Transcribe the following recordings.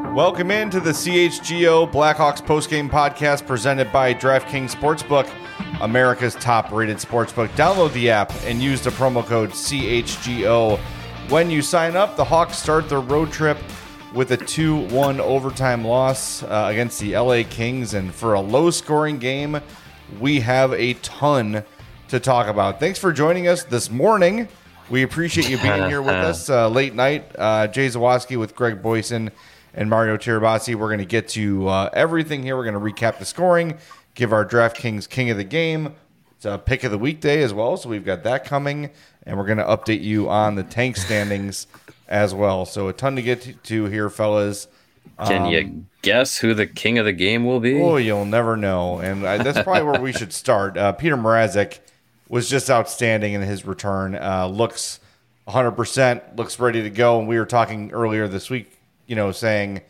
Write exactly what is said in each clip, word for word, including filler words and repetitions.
Welcome into the C H G O Blackhawks postgame podcast presented by DraftKings Sportsbook, America's top-rated sportsbook. Download the app and use the promo code C H G O. When you sign up, the Hawks start their road trip with a two one overtime loss uh, against the L A Kings. And for a low-scoring game, we have a ton to talk about. Thanks for joining us this morning. We appreciate you being here with us uh, late night. Uh, Jay Zawaski with Greg Boyson and Mario Tirabassi. We're going to get to uh, everything here. We're going to recap the scoring, give our DraftKings King of the Game. It's a pick of the weekday as well, so we've got that coming. And we're going to update you on the tank standings as well. So a ton to get to here, fellas. Can um, you guess who the king of the game will be? Oh, you'll never know. And I, that's probably where we should start. Uh, Peter Mrazek was just outstanding in his return. Uh, looks one hundred percent, looks ready to go. And we were talking earlier this week, you know, saying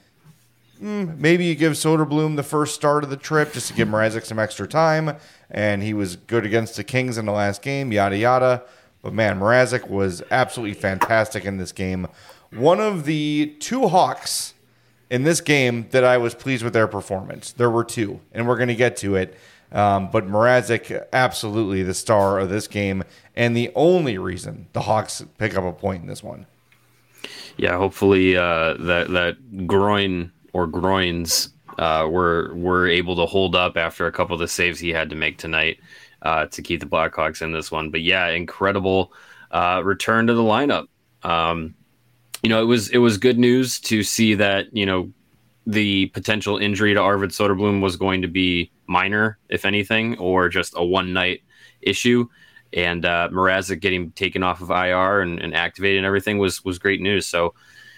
mm, maybe you give Soderblom the first start of the trip just to give Mrazek some extra time. And he was good against the Kings in the last game, yada, yada. But, man, Mrazek was absolutely fantastic in this game. One of the two Hawks in this game that I was pleased with their performance. There were two, and we're going to get to it. Um, but Mrazek, absolutely the star of this game, and the only reason the Hawks pick up a point in this one. Yeah, hopefully uh, that that groin or groins uh, were were able to hold up after a couple of the saves he had to make tonight uh, to keep the Blackhawks in this one. But yeah, incredible uh, return to the lineup. Um, you know, it was it was good news to see that, you know, the potential injury to Arvid Soderblom was going to be minor, if anything, or just a one night issue. And uh, Mrazek getting taken off of I R and, and activated and everything was was great news. So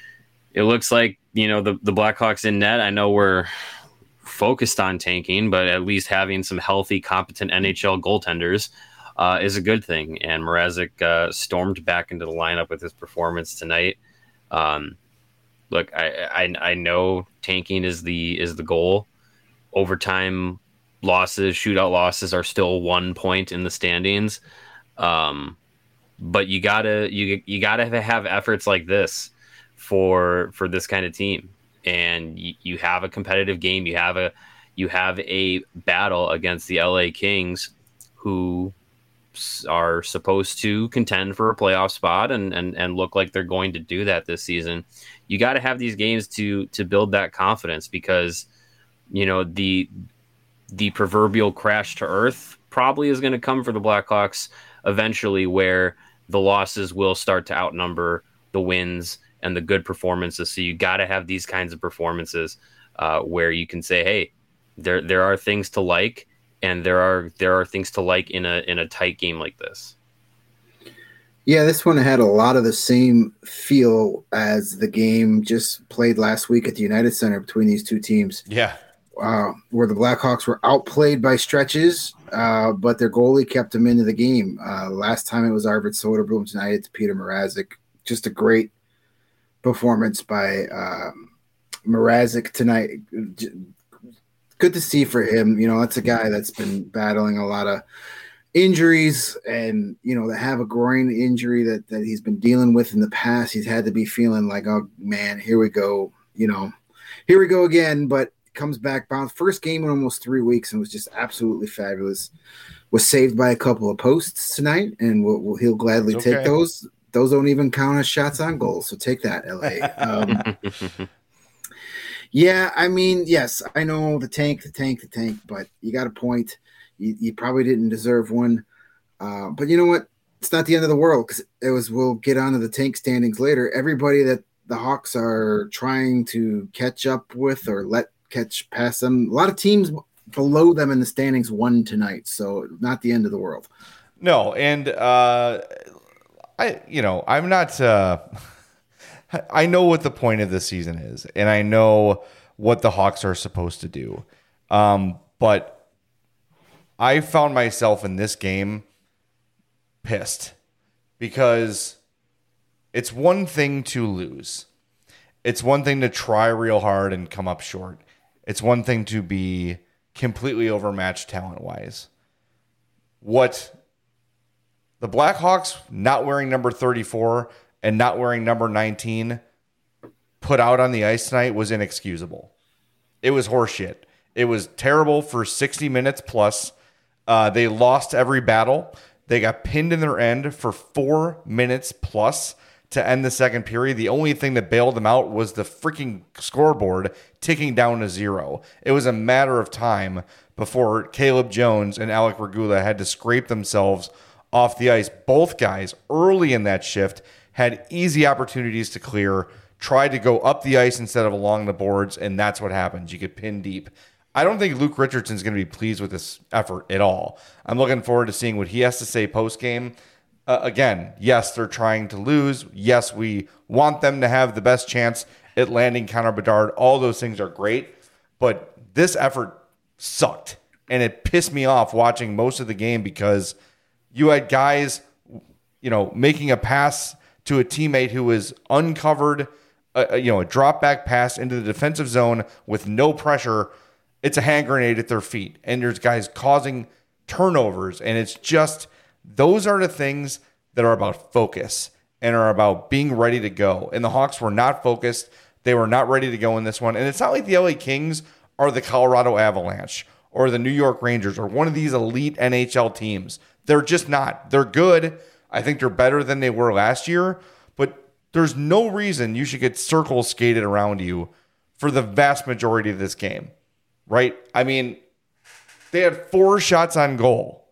it looks like, you know, the, the Blackhawks in net, I know we're focused on tanking, but at least having some healthy, competent N H L goaltenders uh, is a good thing. And Mrazek uh, stormed back into the lineup with his performance tonight. Um, look, I, I I know tanking is the is the goal. Overtime losses, shootout losses are still one point in the standings. Um, but you gotta you you gotta have efforts like this for for this kind of team, and you, you have a competitive game. You have a you have a battle against the L A Kings, who are supposed to contend for a playoff spot and and and look like they're going to do that this season. You got to have these games to to build that confidence, because you know the the proverbial crash to earth probably is going to come for the Blackhawks eventually, where the losses will start to outnumber the wins and the good performances. So you got to have these kinds of performances uh, where you can say, hey, there there are things to like, and there are there are things to like in a in a tight game like this. Yeah, this one had a lot of the same feel as the game just played last week at the United Center between these two teams. Yeah. Uh, where the Blackhawks were outplayed by stretches, uh, but their goalie kept them into the game. Uh, last time it was Arvid Soderblom. Tonight it's Peter Mrazek. Just a great performance by um, Mrazek tonight. Good to see for him. You know, that's a guy that's been battling a lot of injuries, and, you know, to have a groin injury that, that he's been dealing with in the past, he's had to be feeling like, oh, man, here we go. You know, here we go again. But comes back, bounced first game in almost three weeks and was just absolutely fabulous. Was saved by a couple of posts tonight, and we'll, we'll, he'll gladly Okay. take those. Those don't even count as shots on goal, so take that, L A. Um, yeah, I mean, yes, I know the tank, the tank, the tank, but you got a point. You, you probably didn't deserve one. Uh, but you know what? It's not the end of the world, because it was. We'll get onto the tank standings later. Everybody that the Hawks are trying to catch up with or let catch past them, a lot of teams below them in the standings won tonight, so not the end of the world. No, and uh, I, you know, I'm not. Uh, I know what the point of this season is, and I know what the Hawks are supposed to do. Um, but I found myself in this game pissed, because it's one thing to lose. It's one thing to try real hard and come up short. It's one thing to be completely overmatched talent-wise. What the Blackhawks not wearing number thirty-four and not wearing number nineteen put out on the ice tonight was inexcusable. It was horseshit. It was terrible for sixty minutes plus. Uh, they lost every battle. They got pinned in their end for four minutes plus to end the second period. The only thing that bailed them out was the freaking scoreboard ticking down to zero. It was a matter of time before Caleb Jones and Alec Regula had to scrape themselves off the ice. Both guys early in that shift had easy opportunities to clear, tried to go up the ice instead of along the boards, and that's what happens. You get pinned deep. I don't think Luke Richardson's going to be pleased with this effort at all. I'm looking forward to seeing what he has to say post-game. Uh, again, yes, they're trying to lose. Yes, we want them to have the best chance at landing Connor Bedard. All those things are great, but this effort sucked, and it pissed me off watching most of the game because you had guys, you know, making a pass to a teammate who was uncovered, uh, you know, a drop back pass into the defensive zone with no pressure. It's a hand grenade at their feet, and there's guys causing turnovers, and it's just those are the things that are about focus and are about being ready to go. And the Hawks were not focused. They were not ready to go in this one. And it's not like the L A Kings are the Colorado Avalanche or the New York Rangers or one of these elite N H L teams. They're just not. They're good. I think they're better than they were last year, but there's no reason you should get circles skated around you for the vast majority of this game. Right? I mean, they had four shots on goal,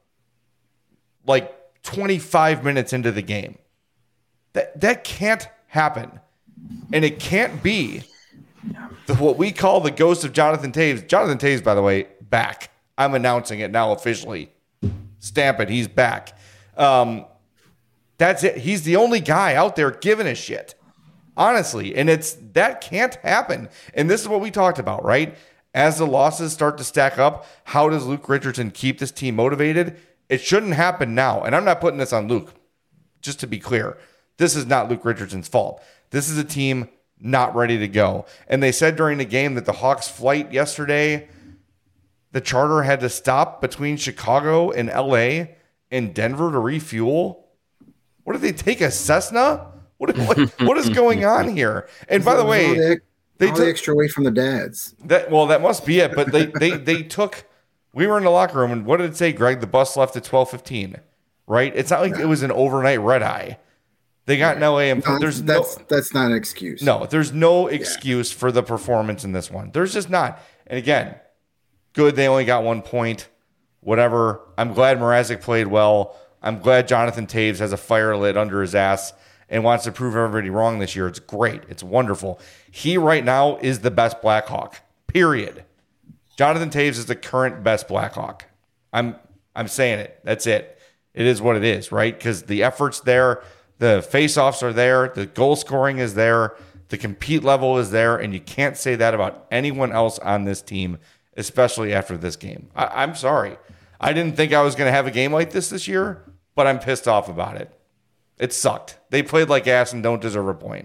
like twenty-five minutes into the game. That that can't happen. And it can't be the, what we call the ghost of Jonathan Toews. Jonathan Toews, by the way, back. I'm announcing it now officially. Stamp it. He's back. Um, that's it. He's the only guy out there giving a shit. Honestly. And it's that can't happen. And this is what we talked about, right? As the losses start to stack up, how does Luke Richardson keep this team motivated? It shouldn't happen now. And I'm not putting this on Luke, just to be clear. This is not Luke Richardson's fault. This is a team not ready to go. And they said during the game that the Hawks flight yesterday, the charter had to stop between Chicago and L A and Denver to refuel. What did they take, a Cessna? What, what, what is going on here? And by the way, They took the extra weight from the dads. That well, that must be it. But they they they took. We were in the locker room, and what did it say, Greg? The bus left at twelve fifteen, right? It's not like yeah. it was an overnight red eye. They got in L A, and no, there's that's no, that's not an excuse. No, there's no excuse yeah. for the performance in this one. There's just not. And again, good. They only got one point. Whatever. I'm glad Mrazek played well. I'm glad Jonathan Toews has a fire lit under his ass and wants to prove everybody wrong this year. It's great. It's wonderful. He right now is the best Blackhawk, period. Jonathan Toews is the current best Blackhawk. I'm I'm saying it. That's it. It is what it is, right? Because the effort's there, the face-offs are there, the goal scoring is there, the compete level is there, and you can't say that about anyone else on this team, especially after this game. I, I'm sorry. I didn't think I was going to have a game like this this year, but I'm pissed off about it. It sucked. They played like ass and don't deserve a point.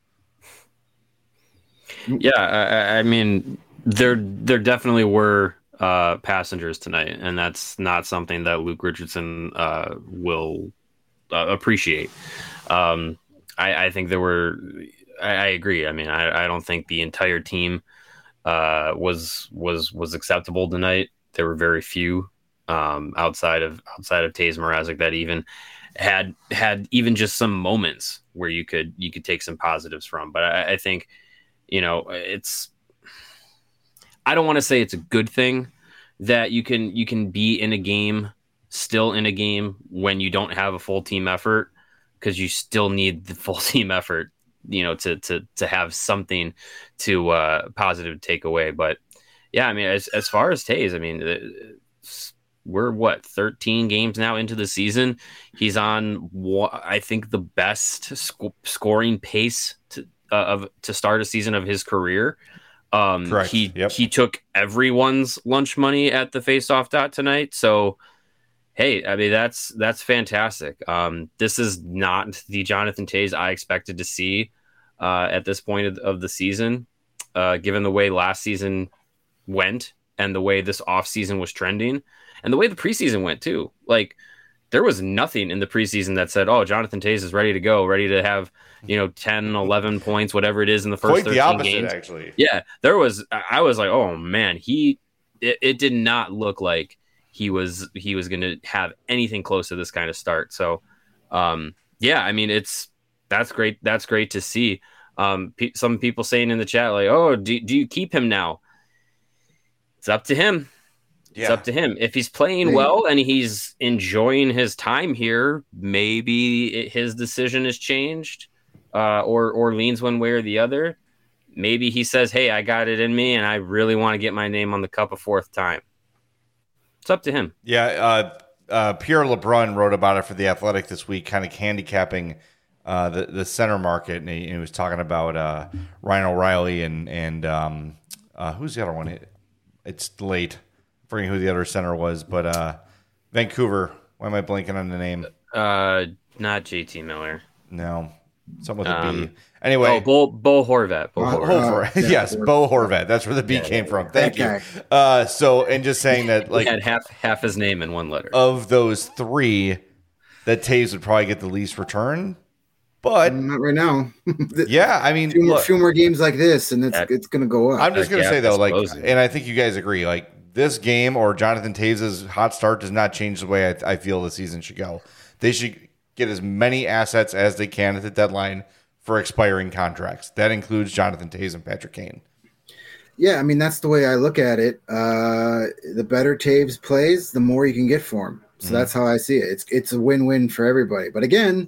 Yeah, I, I mean, there there definitely were uh, passengers tonight, and that's not something that Luke Richardson uh, will uh, appreciate. Um, I, I think there were. I, I agree. I mean, I, I don't think the entire team uh, was was was acceptable tonight. There were very few um, outside of outside of Toews Mrazek that even had had even just some moments where you could you could take some positives from. But I, I think, you know, it's I don't want to say it's a good thing that you can you can be in a game, still in a game when you don't have a full team effort, because you still need the full team effort, you know, to to to have something to uh, positive take away. But yeah, I mean, as as far as Toews, I mean, we're what thirteen games now into the season. He's on, I think, the best sc- scoring pace to, uh, of to start a season of his career. Um, Correct. He yep. he took everyone's lunch money at the faceoff dot tonight. So, hey, I mean that's that's fantastic. Um, this is not the Jonathan Toews I expected to see uh, at this point of, of the season, uh, given the way last season went and the way this offseason was trending and the way the preseason went too. Like, there was nothing in the preseason that said, oh, Jonathan Toews is ready to go, ready to have, you know, ten, eleven points, whatever it is in the first Quite thirteen the opposite, games. actually. Yeah, there was, I was like, oh man, he, it, it did not look like he was, he was going to have anything close to this kind of start. So, um, yeah, I mean, it's, that's great. That's great to see. Um, pe- some people saying in the chat, like, oh, do, do you keep him now? It's up to him. Yeah. It's up to him. If he's playing well and he's enjoying his time here, maybe it, his decision has changed uh, or or leans one way or the other. Maybe he says, hey, I got it in me and I really want to get my name on the cup a fourth time. It's up to him. Yeah, uh, uh, Pierre LeBrun wrote about it for The Athletic this week, kind of handicapping uh, the, the center market. And he, he was talking about uh, Ryan O'Reilly and, and um, uh, who's the other one? It's late. Forgetting who the other center was, but uh, Vancouver. Why am I blanking on the name? Uh, not J T Miller. No, something with a Um, B. Anyway, Oh, Bo, Bo Horvat. Bo Uh, Horvat. Bo uh, Horvat. yeah, yes, Horvat. Bo Horvat. That's where the B Yeah, came yeah, from. Thank you. Okay. Uh, so, and just saying that, like, He had half half his name in one letter. of those three, that Toews would probably get the least return. But Not right now. yeah, I mean, few more, look, few more games like this, and it's That- it's going to go up. I'm just That gonna gap say though, is like, closing. and I think you guys agree, like, this game or Jonathan Toews' hot start does not change the way I, I feel the season should go. They should get as many assets as they can at the deadline for expiring contracts. That includes Jonathan Toews and Patrick Kane. Yeah, I mean that's the way I look at it. Uh, the better Taves plays, the more you can get for him. So Mhm. that's how I see it. It's it's a win-win for everybody. But again,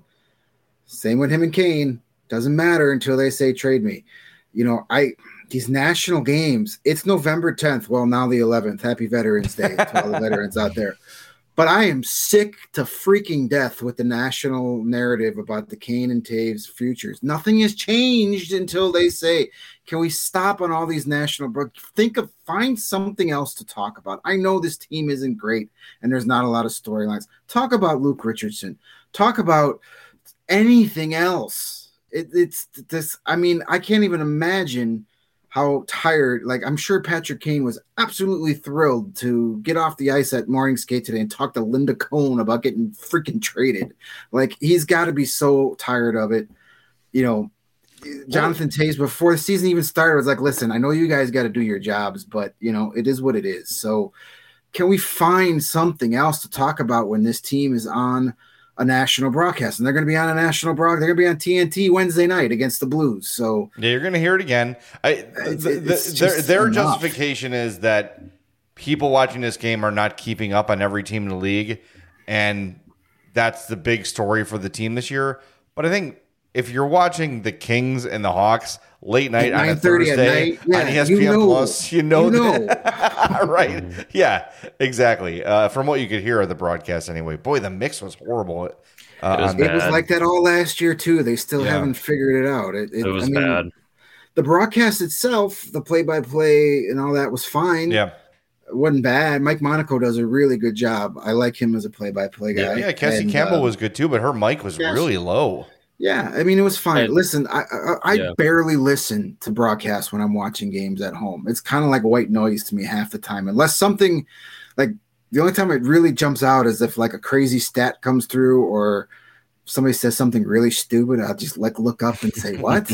same with him and Kane. Doesn't matter until they say trade me. You know, I these national games. It's November tenth. Well, now the eleventh. Happy Veterans Day to all the veterans out there. But I am sick to freaking death with the national narrative about the Kane and Taves futures. Nothing has changed until they say, can we stop on all these national bro- think of find something else to talk about. I know this team isn't great and there's not a lot of storylines. Talk about Luke Richardson. Talk about anything else. It, it's this. I mean, I can't even imagine how tired, like I'm sure Patrick Kane was absolutely thrilled to get off the ice at morning skate today and talk to Linda Cohn about getting freaking traded. Like he's got to be so tired of it. You know, Jonathan Toews before the season even started was like, listen, I know you guys got to do your jobs, but you know, it is what it is. So can we find something else to talk about when this team is on a national broadcast? And they're going to be on a national broadcast. They're going to be on T N T Wednesday night against the Blues. So Yeah, you're going to hear it again. I, It's- the, the, it's their just their enough. justification is that people watching this game are not keeping up on every team in the league, and that's the big story for the team this year. But I think if you're watching the Kings and the Hawks late night on a nine thirty at Thursday night, yeah, on E S P N you know. Plus, you know, You know. that- right? Yeah, exactly. Uh, from what you could hear of the broadcast, anyway. Boy, the mix was horrible. Uh, It was on It that. was Bad. like that all last year too. They still Yeah. haven't figured it out. It, it, It was I mean, bad. The broadcast itself, the play-by-play and all that was fine. Yeah, It wasn't bad. Mike Monaco does a really good job. I like him as a play-by-play guy. yeah. Cassie And, Campbell uh, was good too, but her mic was yes. really low. Yeah, I mean it was fine. And- Listen, I I, I Yeah. barely listen to broadcasts when I'm watching games at home. It's kind of like white noise to me half the time, unless something like the only time it really jumps out is if like a crazy stat comes through or somebody says something really stupid. I'll just like look up and say what.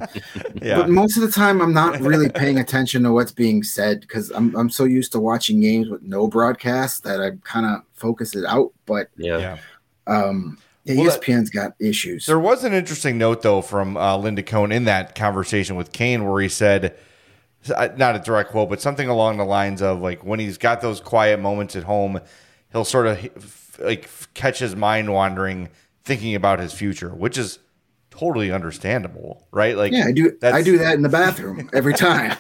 Yeah. But most of the time, I'm not really paying attention to what's being said because I'm I'm so used to watching games with no broadcast that I kind of focus it out. But Yeah. yeah. um, yeah, Well, E S P N's got issues. There was an interesting note, though, from uh, Linda Cohn in that conversation with Kane where he said, not a direct quote, but something along the lines of, like, when he's got those quiet moments at home, he'll sort of, like, catch his mind wandering, thinking about his future, which is totally understandable, right? Like, Yeah, I do. I that's- do that in the bathroom every time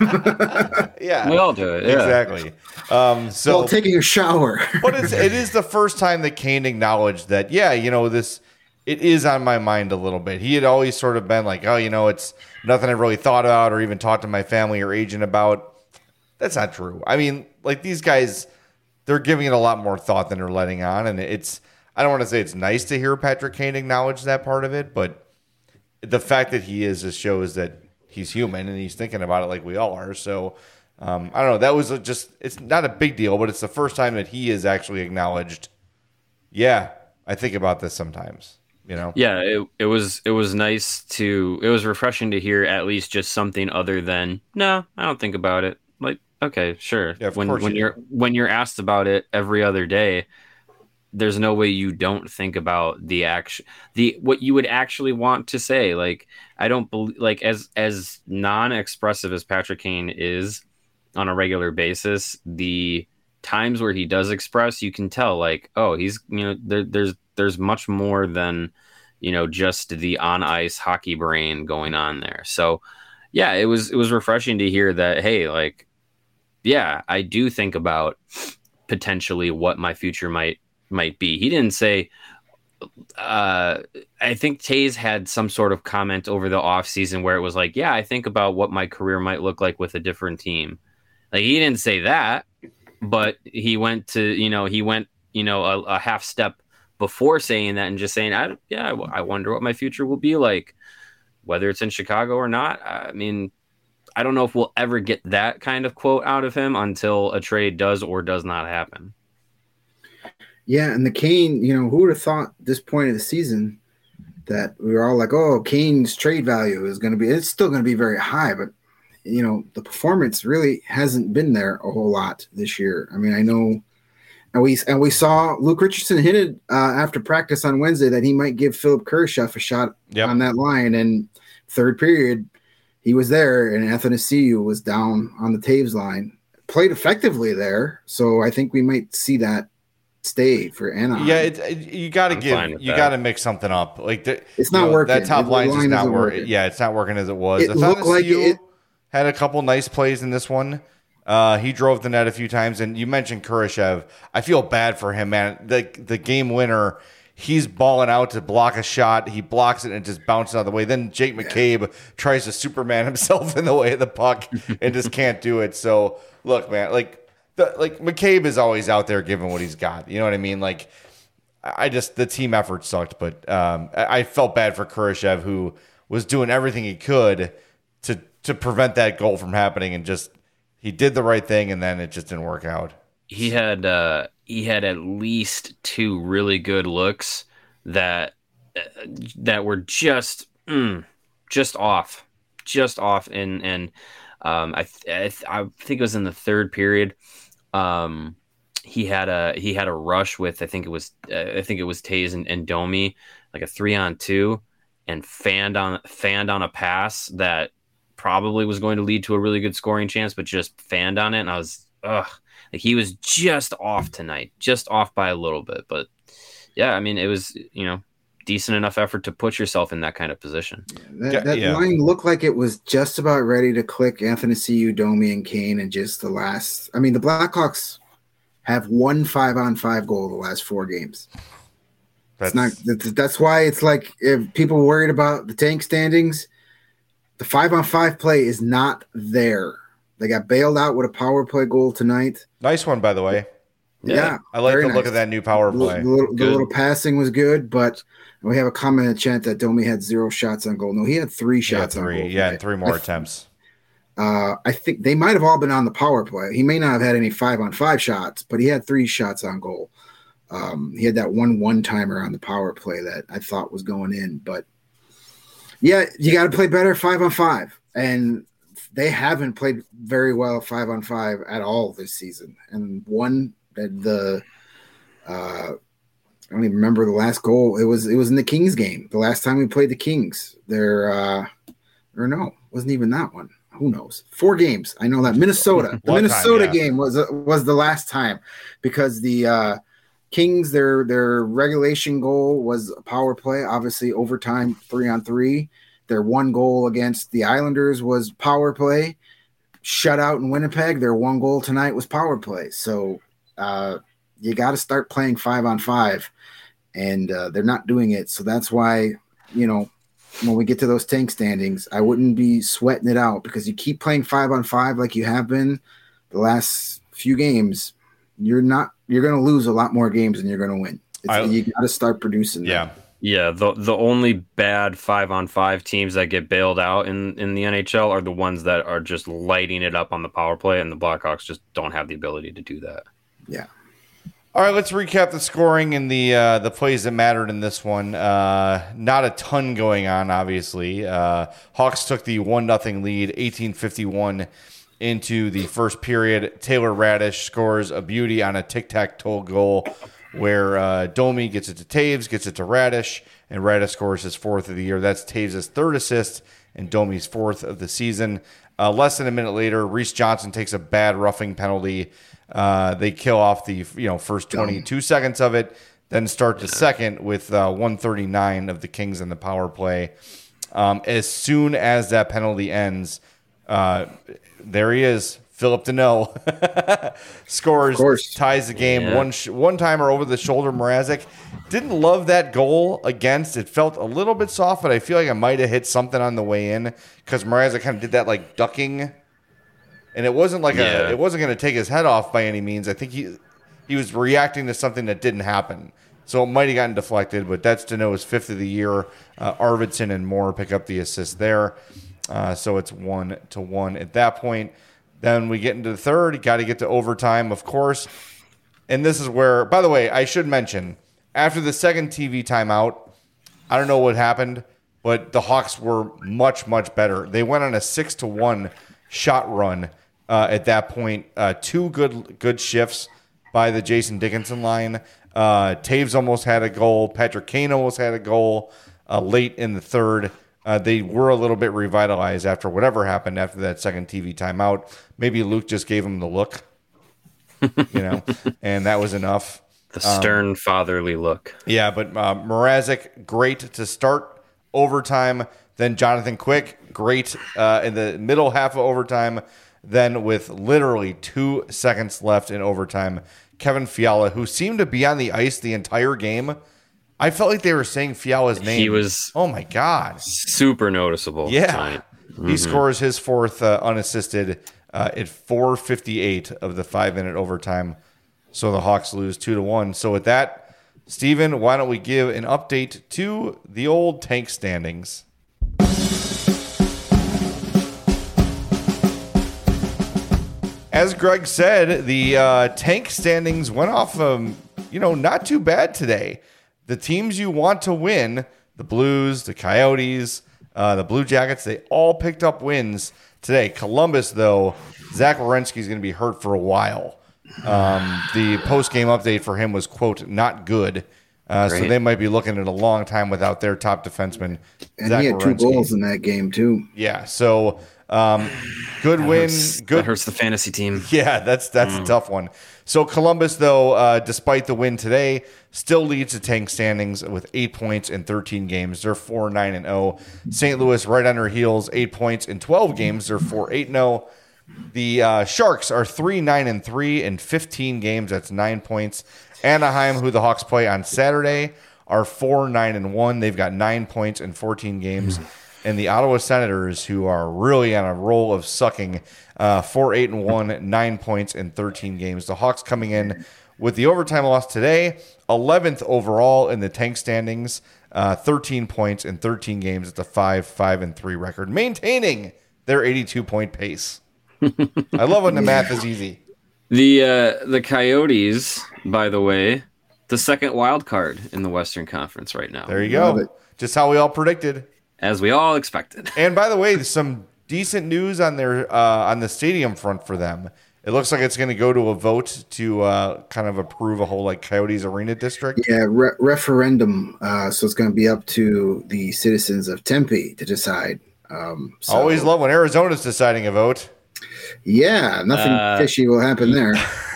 Yeah, We all do it. Yeah. exactly. Um, so, while taking a shower. but it's, it is the first time that Kane acknowledged that, yeah, you know, this, it is on my mind a little bit. He had always sort of been like, oh, you know, it's nothing I really thought about or even talked to my family or agent about. That's not true. I mean, like these guys, they're giving it a lot more thought than they're letting on. And it's, I don't want to say it's nice to hear Patrick Kane acknowledge that part of it, but the fact that he is just shows that he's human and he's thinking about it like we all are. So, um, I don't know. That was a just, it's not a big deal, but it's the first time that he is actually acknowledged, yeah, I think about this sometimes. You know? Yeah, it it was it was nice to it was refreshing to hear at least just something other than no, I don't think about it. Like, okay, sure. Yeah, of when course when you you're do. when you're asked about it every other day, there's no way you don't think about the action, the what you would actually want to say. Like, I don't believe like as as non-expressive as Patrick Kane is on a regular basis, the times where he does express, you can tell like, oh, he's you know there, there's there's much more than you know just the on ice hockey brain going on there. So yeah, it was it was refreshing to hear that. Hey, like, yeah, I do think about potentially what my future might might be. He didn't say. Uh, I think Tays had some sort of comment over the off season where it was like, yeah, I think about what my career might look like with a different team. Like, he didn't say that, but he went to, you know, he went, you know, a, a half step before saying that and just saying, I, yeah, I wonder what my future will be like, whether it's in Chicago or not. I mean, I don't know if we'll ever get that kind of quote out of him until a trade does or does not happen. Yeah, and the Kane, you know, who would have thought at this point of the season that we were all like, oh, Kane's trade value is going to be, it's still going to be very high, but, you know, the performance really hasn't been there a whole lot this year. I mean, I know, and we and we saw Luke Richardson hinted uh, after practice on Wednesday that he might give Philip Kurashev a shot Yep. on that line, and third period, he was there, and Athanasiou was down on the Taves line. Played effectively there, so I think we might see that stay for Anaheim. Yeah, it, it, you got to I'm give, fine with you that. line to mix something up. Like the, It's you not know, working. That top The line is line not isn't working. working. Yeah, it's not working as it was. It looked like Athanasiou it- had a couple nice plays in this one. Uh, he drove the net a few times, and you mentioned Kurashev. I feel bad for him, man. The the game winner, he's balling out to block a shot. He blocks it and it just bounces out of the way. Then Jake McCabe tries to Superman himself in the way of the puck and just can't do it. So look, man, like the like McCabe is always out there giving what he's got. You know what I mean? Like, I just the team effort sucked, but um, I, I felt bad for Kurashev, who was doing everything he could to to prevent that goal from happening, and just he did the right thing, and then it just didn't work out. He had uh, he had at least two really good looks that uh, that were just mm, just off, just off, and and um, I th- I, th- I think it was in the third period. Um, he had a he had a rush with I think it was uh, I think it was Tays and, and Domi, like a three on two, and fanned on fanned on a pass that probably was going to lead to a really good scoring chance, but just fanned on it, and I was ugh. Like, he was just off tonight, just off by a little bit. But yeah, I mean, it was, you know, decent enough effort to put yourself in that kind of position. That, Yeah, that yeah. line looked like it was just about ready to click Athanasiou, Domi, and Kane, and just the last. I mean, the Blackhawks have one five-on-five goal the last four games. That's It's not. That's, that's why it's like if people were worried about the tank standings, the five-on-five play is not there. They got bailed out with a power play goal tonight. nice one, by the way. Yeah, I like the very look nice. of that new power The, play. the little, the Good. little passing was good, but we have a comment in the chat that Domi had zero shots on goal. No, he had three Yeah, shots on three. goal. Yeah, tonight. and three more I, attempts. Uh, I think they might have all been on the power play. He may not have had any five on five shots, but he had three shots on goal. Um, he had that one one timer on the power play that I thought was going in, but yeah, you got to play better five on five, and they haven't played very well five on five at all this season. And one the uh, I don't even remember the last goal. It was it was in the Kings game. The last time we played the Kings, there uh, or no, wasn't even that one. Who knows? Four games. I know that Minnesota. The One time, Minnesota yeah. game was was the last time because the uh, Kings their their regulation goal was a power play. Obviously, overtime three on three. Their one goal against the Islanders was power play. Shutout in Winnipeg. Their one goal tonight was power play. So uh, you got to start playing five on five, and uh, they're not doing it. So that's why, you know, when we get to those tank standings, I wouldn't be sweating it out because you keep playing five on five like you have been the last few games. You're not. You're going to lose a lot more games than you're going to win. It's, I- you got to start producing. them. Yeah. Yeah, the the only bad five on five teams that get bailed out in, in the N H L are the ones that are just lighting it up on the power play, and the Blackhawks just don't have the ability to do that. Yeah. All right, let's recap the scoring and the uh, the plays that mattered in this one. Uh, not a ton going on, obviously. Uh, Hawks took the one nothing lead, eighteen fifty-one into the first period. Taylor Radish scores a beauty on a tic-tac-toe goal where uh, Domi gets it to Taves, gets it to Radish, and Radish scores his fourth of the year. That's Taves' third assist and Domi's fourth of the season. Uh, less than a minute later, Reese Johnson takes a bad roughing penalty. Uh, they kill off the you know first twenty-two seconds of it, then start the second with uh, one thirty-nine of the Kings in the power play. Um, as soon as that penalty ends, uh, there he is, Philip Deneau scores, ties the game. Yeah. One sh- one timer over the shoulder. Mrazek didn't love that goal against. It felt a little bit soft, but I feel like I might have hit something on the way in because Mrazek kind of did that like ducking. And it wasn't like Yeah. a, it wasn't going to take his head off by any means. I think he he was reacting to something that didn't happen. So it might have gotten deflected, but that's Deneau's fifth of the year. Uh, Arvidsson and Moore pick up the assist there. Uh, so it's one to one at that point. Then we get into the third. You got to get to overtime, of course. And this is where, by the way, I should mention, after the second T V timeout, I don't know what happened, but the Hawks were much, much better. They went on a six to one shot run. Uh, at that point, uh, two good good shifts by the Jason Dickinson line. Uh, Taves almost had a goal. Patrick Kane almost had a goal uh, late in the third. Uh, they were a little bit revitalized after whatever happened after that second T V timeout. Maybe Luke just gave him the look, you know, and that was enough. The stern um, fatherly look. Yeah, but uh, Mrazek, great to start overtime. Then Jonathan Quick, great uh, in the middle half of overtime. Then with literally two seconds left in overtime, Kevin Fiala, who seemed to be on the ice the entire game, I felt like they were saying Fiala's name. He was oh my God. super noticeable Yeah. tonight. Mm-hmm. He scores his fourth uh, unassisted uh, at four fifty-eight of the five-minute overtime. So the Hawks lose two to one. So with that, Steven, why don't we give an update to the old tank standings? As Greg said, the uh, tank standings went off, um, you know, not too bad today. The teams you want to win, the Blues, the Coyotes, uh, the Blue Jackets, they all picked up wins today. Columbus, though, Zach Werenski is going to be hurt for a while. Um, the post-game update for him was, quote, not good. Uh, so they might be looking at a long time without their top defenseman. And Zach he had two Werenski. goals in that game, too. Yeah, so um, good That win. hurts, good. that hurts the fantasy team. Yeah, that's that's mm. a tough one. So Columbus, though, uh, despite the win today, still leads the tank standings with eight points in thirteen games. They're four nine and zero. Saint Louis right on their heels, eight points in twelve games. They're four eight and zero. The uh, Sharks are three nine and three in fifteen games. That's nine points. Anaheim, who the Hawks play on Saturday, are four nine and one. They've got nine points in fourteen games. And the Ottawa Senators, who are really on a roll of sucking, uh, four eight and one, nine points in thirteen games. The Hawks coming in with the overtime loss today, eleventh overall in the tank standings, uh, thirteen points in thirteen games. It's a five five and three record, maintaining their eighty-two point pace. I love when the math is easy. The uh, the Coyotes, by the way, the second wild card in the Western Conference right now. There you go. Just how we all predicted. As we all expected. And by the way, there's some decent news on their uh, on the stadium front for them. It looks like it's going to go to a vote to uh, kind of approve a whole like Coyotes Arena district. Yeah, re- referendum. Uh, so it's going to be up to the citizens of Tempe to decide. Um, so, Always love when Arizona's deciding a vote. Yeah, nothing uh, fishy will happen there.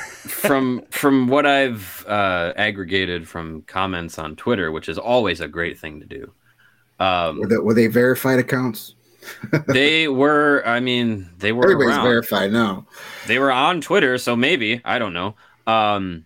from from what I've uh, aggregated from comments on Twitter, which is always a great thing to do. Um, were, they, were they verified accounts? They were. I mean, they were. Everybody's around. verified now. They were on Twitter, so maybe I don't know. Um,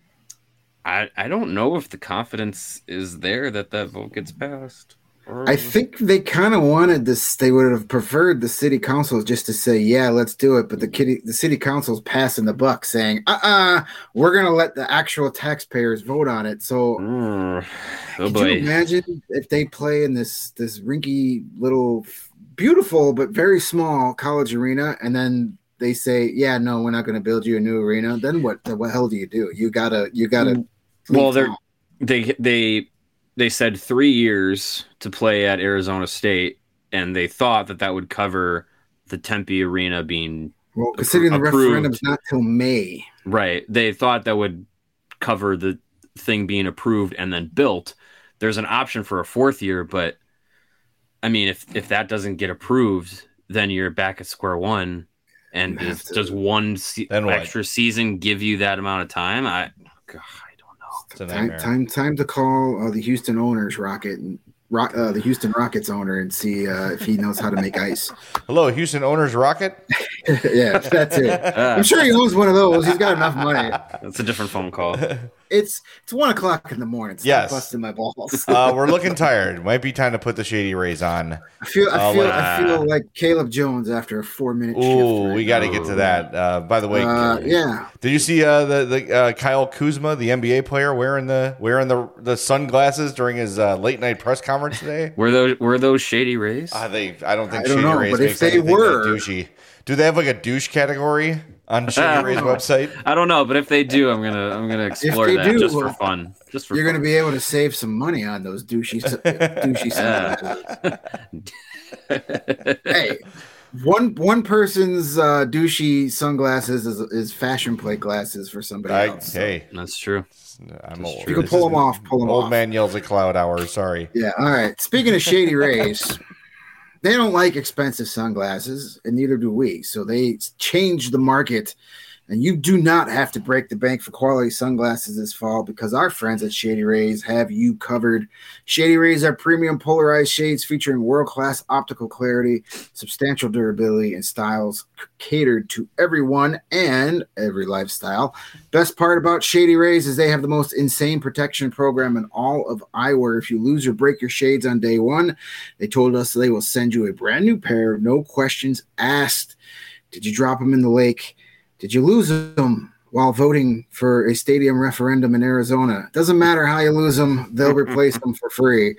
I I don't know if the confidence is there that that vote gets passed. Or... I think they kind of wanted this. They would have preferred the city council just to say, "Yeah, let's do it." But the kitty, the city council's passing the buck, saying, "Uh, uh-uh, uh, we're gonna let the actual taxpayers vote on it." So. Mm. Oh, Could boy. you imagine if they play in this this rinky little, beautiful but very small college arena, and then they say, "Yeah, no, we're not going to build you a new arena." Then what? The what hell do you do? You gotta, you gotta Well, they they they they said three years to play at Arizona State, and they thought that that would cover the Tempe Arena being well, considering appro- the approved. referendum's not till May. Right. They thought that would cover the thing being approved and then built. There's an option for a fourth year, but I mean, if if that doesn't get approved, then you're back at square one. And does, does one se- extra season give you that amount of time? I, God, I don't know. It's a time, time, time to call uh, the Houston owners, Rocket, and Rock, uh, the Houston Rockets owner, and see uh, if he knows how to make ice. Hello, Houston owners, Rocket. Yeah, that's it. Uh, I'm sure he owns one of those. He's got enough money. That's a different phone call. It's it's one o'clock in the morning. Stop yes, busting my balls. uh, we're looking tired. Might be time to put the Shady Rays on. I feel I uh, feel like, I feel like Caleb Jones after a four minute. Ooh, shift we got to get to that. Uh, by the way, uh, yeah. Did you see uh, the the uh, Kyle Kuzma, the N B A player, wearing the wearing the the sunglasses during his uh, late night press conference today? Were those were those Shady Rays? I think I don't think I don't Shady know, Rays but makes if they anything were, that douchey. Do they have like a douche category on Shady Rays website? I don't know, but if they do, I'm gonna I'm gonna explore that do, just for fun. Just for you're fun. gonna be able to save some money on those douchey douchey sunglasses. Hey, one one person's uh, douchey sunglasses is, is fashion plate glasses for somebody I, else. Hey, so. That's true. I'm that's old. true. You can pull them off. Pull them old off. man yells at cloud hours. Sorry. Yeah. All right. Speaking of Shady Rays. They don't like expensive sunglasses, and neither do we. So they changed the market, and you do not have to break the bank for quality sunglasses this fall because our friends at Shady Rays have you covered. Shady Rays are premium polarized shades featuring world-class optical clarity, substantial durability, and styles catered to everyone and every lifestyle. Best part about Shady Rays is they have the most insane protection program in all of eyewear. If you lose or break your shades on day one, they told us they will send you a brand new pair, no questions asked. Did you drop them in the lake? Did you lose them while voting for a stadium referendum in Arizona? Doesn't matter how you lose them, they'll replace them for free.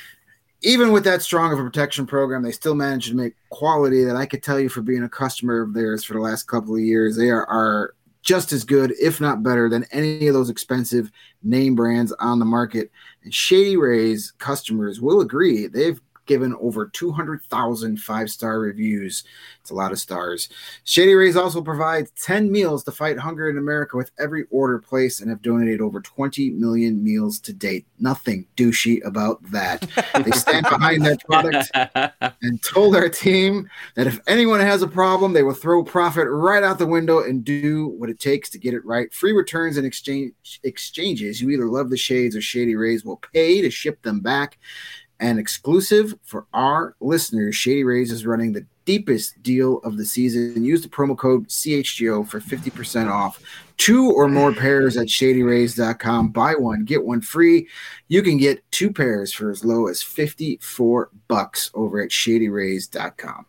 Even with that strong of a protection program, they still managed to make quality that I could tell you for being a customer of theirs for the last couple of years. They are, are just as good, if not better, than any of those expensive name brands on the market. And Shady Rays customers will agree. They've given over two hundred thousand five-star reviews. It's a lot of stars. Shady Rays also provides ten meals to fight hunger in America with every order placed and have donated over twenty million meals to date. Nothing douchey about that. They stand behind their product and told our team that if anyone has a problem, they will throw profit right out the window and do what it takes to get it right. Free returns and exchange exchanges. You either love the shades or Shady Rays will pay to ship them back. And exclusive for our listeners, Shady Rays is running the deepest deal of the season. Use the promo code C H G O for fifty percent off. Two or more pairs at shady rays dot com. Buy one, get one free. You can get two pairs for as low as fifty-four bucks over at shady rays dot com.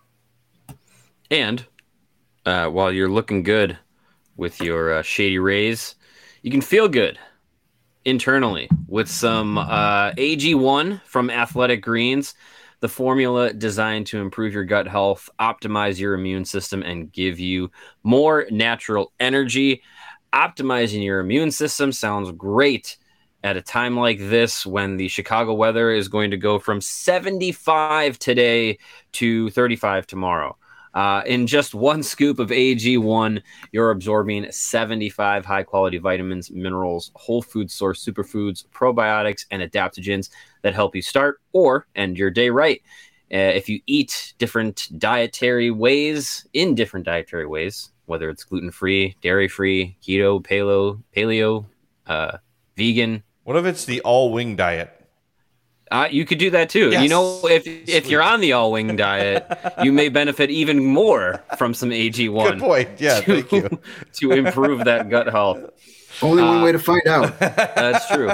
And uh, while you're looking good with your uh, Shady Rays, you can feel good internally with some uh, A G one from Athletic Greens, the formula designed to improve your gut health, optimize your immune system, and give you more natural energy. Optimizing your immune system sounds great at a time like this when the Chicago weather is going to go from seventy-five today to thirty-five tomorrow. Uh, in just one scoop of A G one, you're absorbing seventy-five high-quality vitamins, minerals, whole food source superfoods, probiotics, and adaptogens that help you start or end your day right. Uh, if you eat different dietary ways, in different dietary ways, whether it's gluten-free, dairy-free, keto, paleo, paleo, uh, vegan. What if it's the all-wing diet? Uh, you could do that too. Yes. You know, if if you're on the all-wing diet, you may benefit even more from some A G one. Good point. Yeah, to, thank you. To improve that gut health. Only one uh, way to find out. That's true.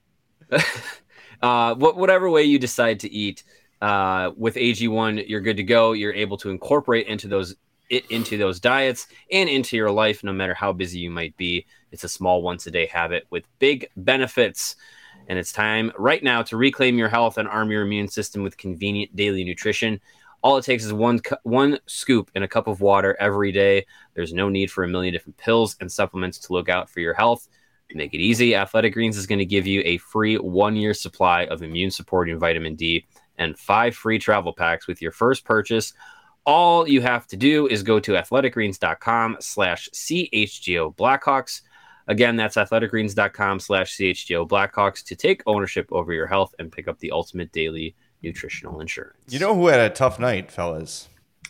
uh, whatever way you decide to eat, uh, with A G one, you're good to go. You're able to incorporate into those it into those diets and into your life, no matter how busy you might be. It's a small once-a-day habit with big benefits. And it's time right now to reclaim your health and arm your immune system with convenient daily nutrition. All it takes is one cu- one scoop in a cup of water every day. There's no need for a million different pills and supplements to look out for your health. make it easy. Athletic Greens is going to give you a free one-year supply of immune-supporting vitamin D and five free travel packs with your first purchase. All you have to do is go to athleticgreens.com slash CHGO Blackhawks. Again, that's athleticgreens.com slash CHGO Blackhawks to take ownership over your health and pick up the ultimate daily nutritional insurance. You know who had a tough night, fellas?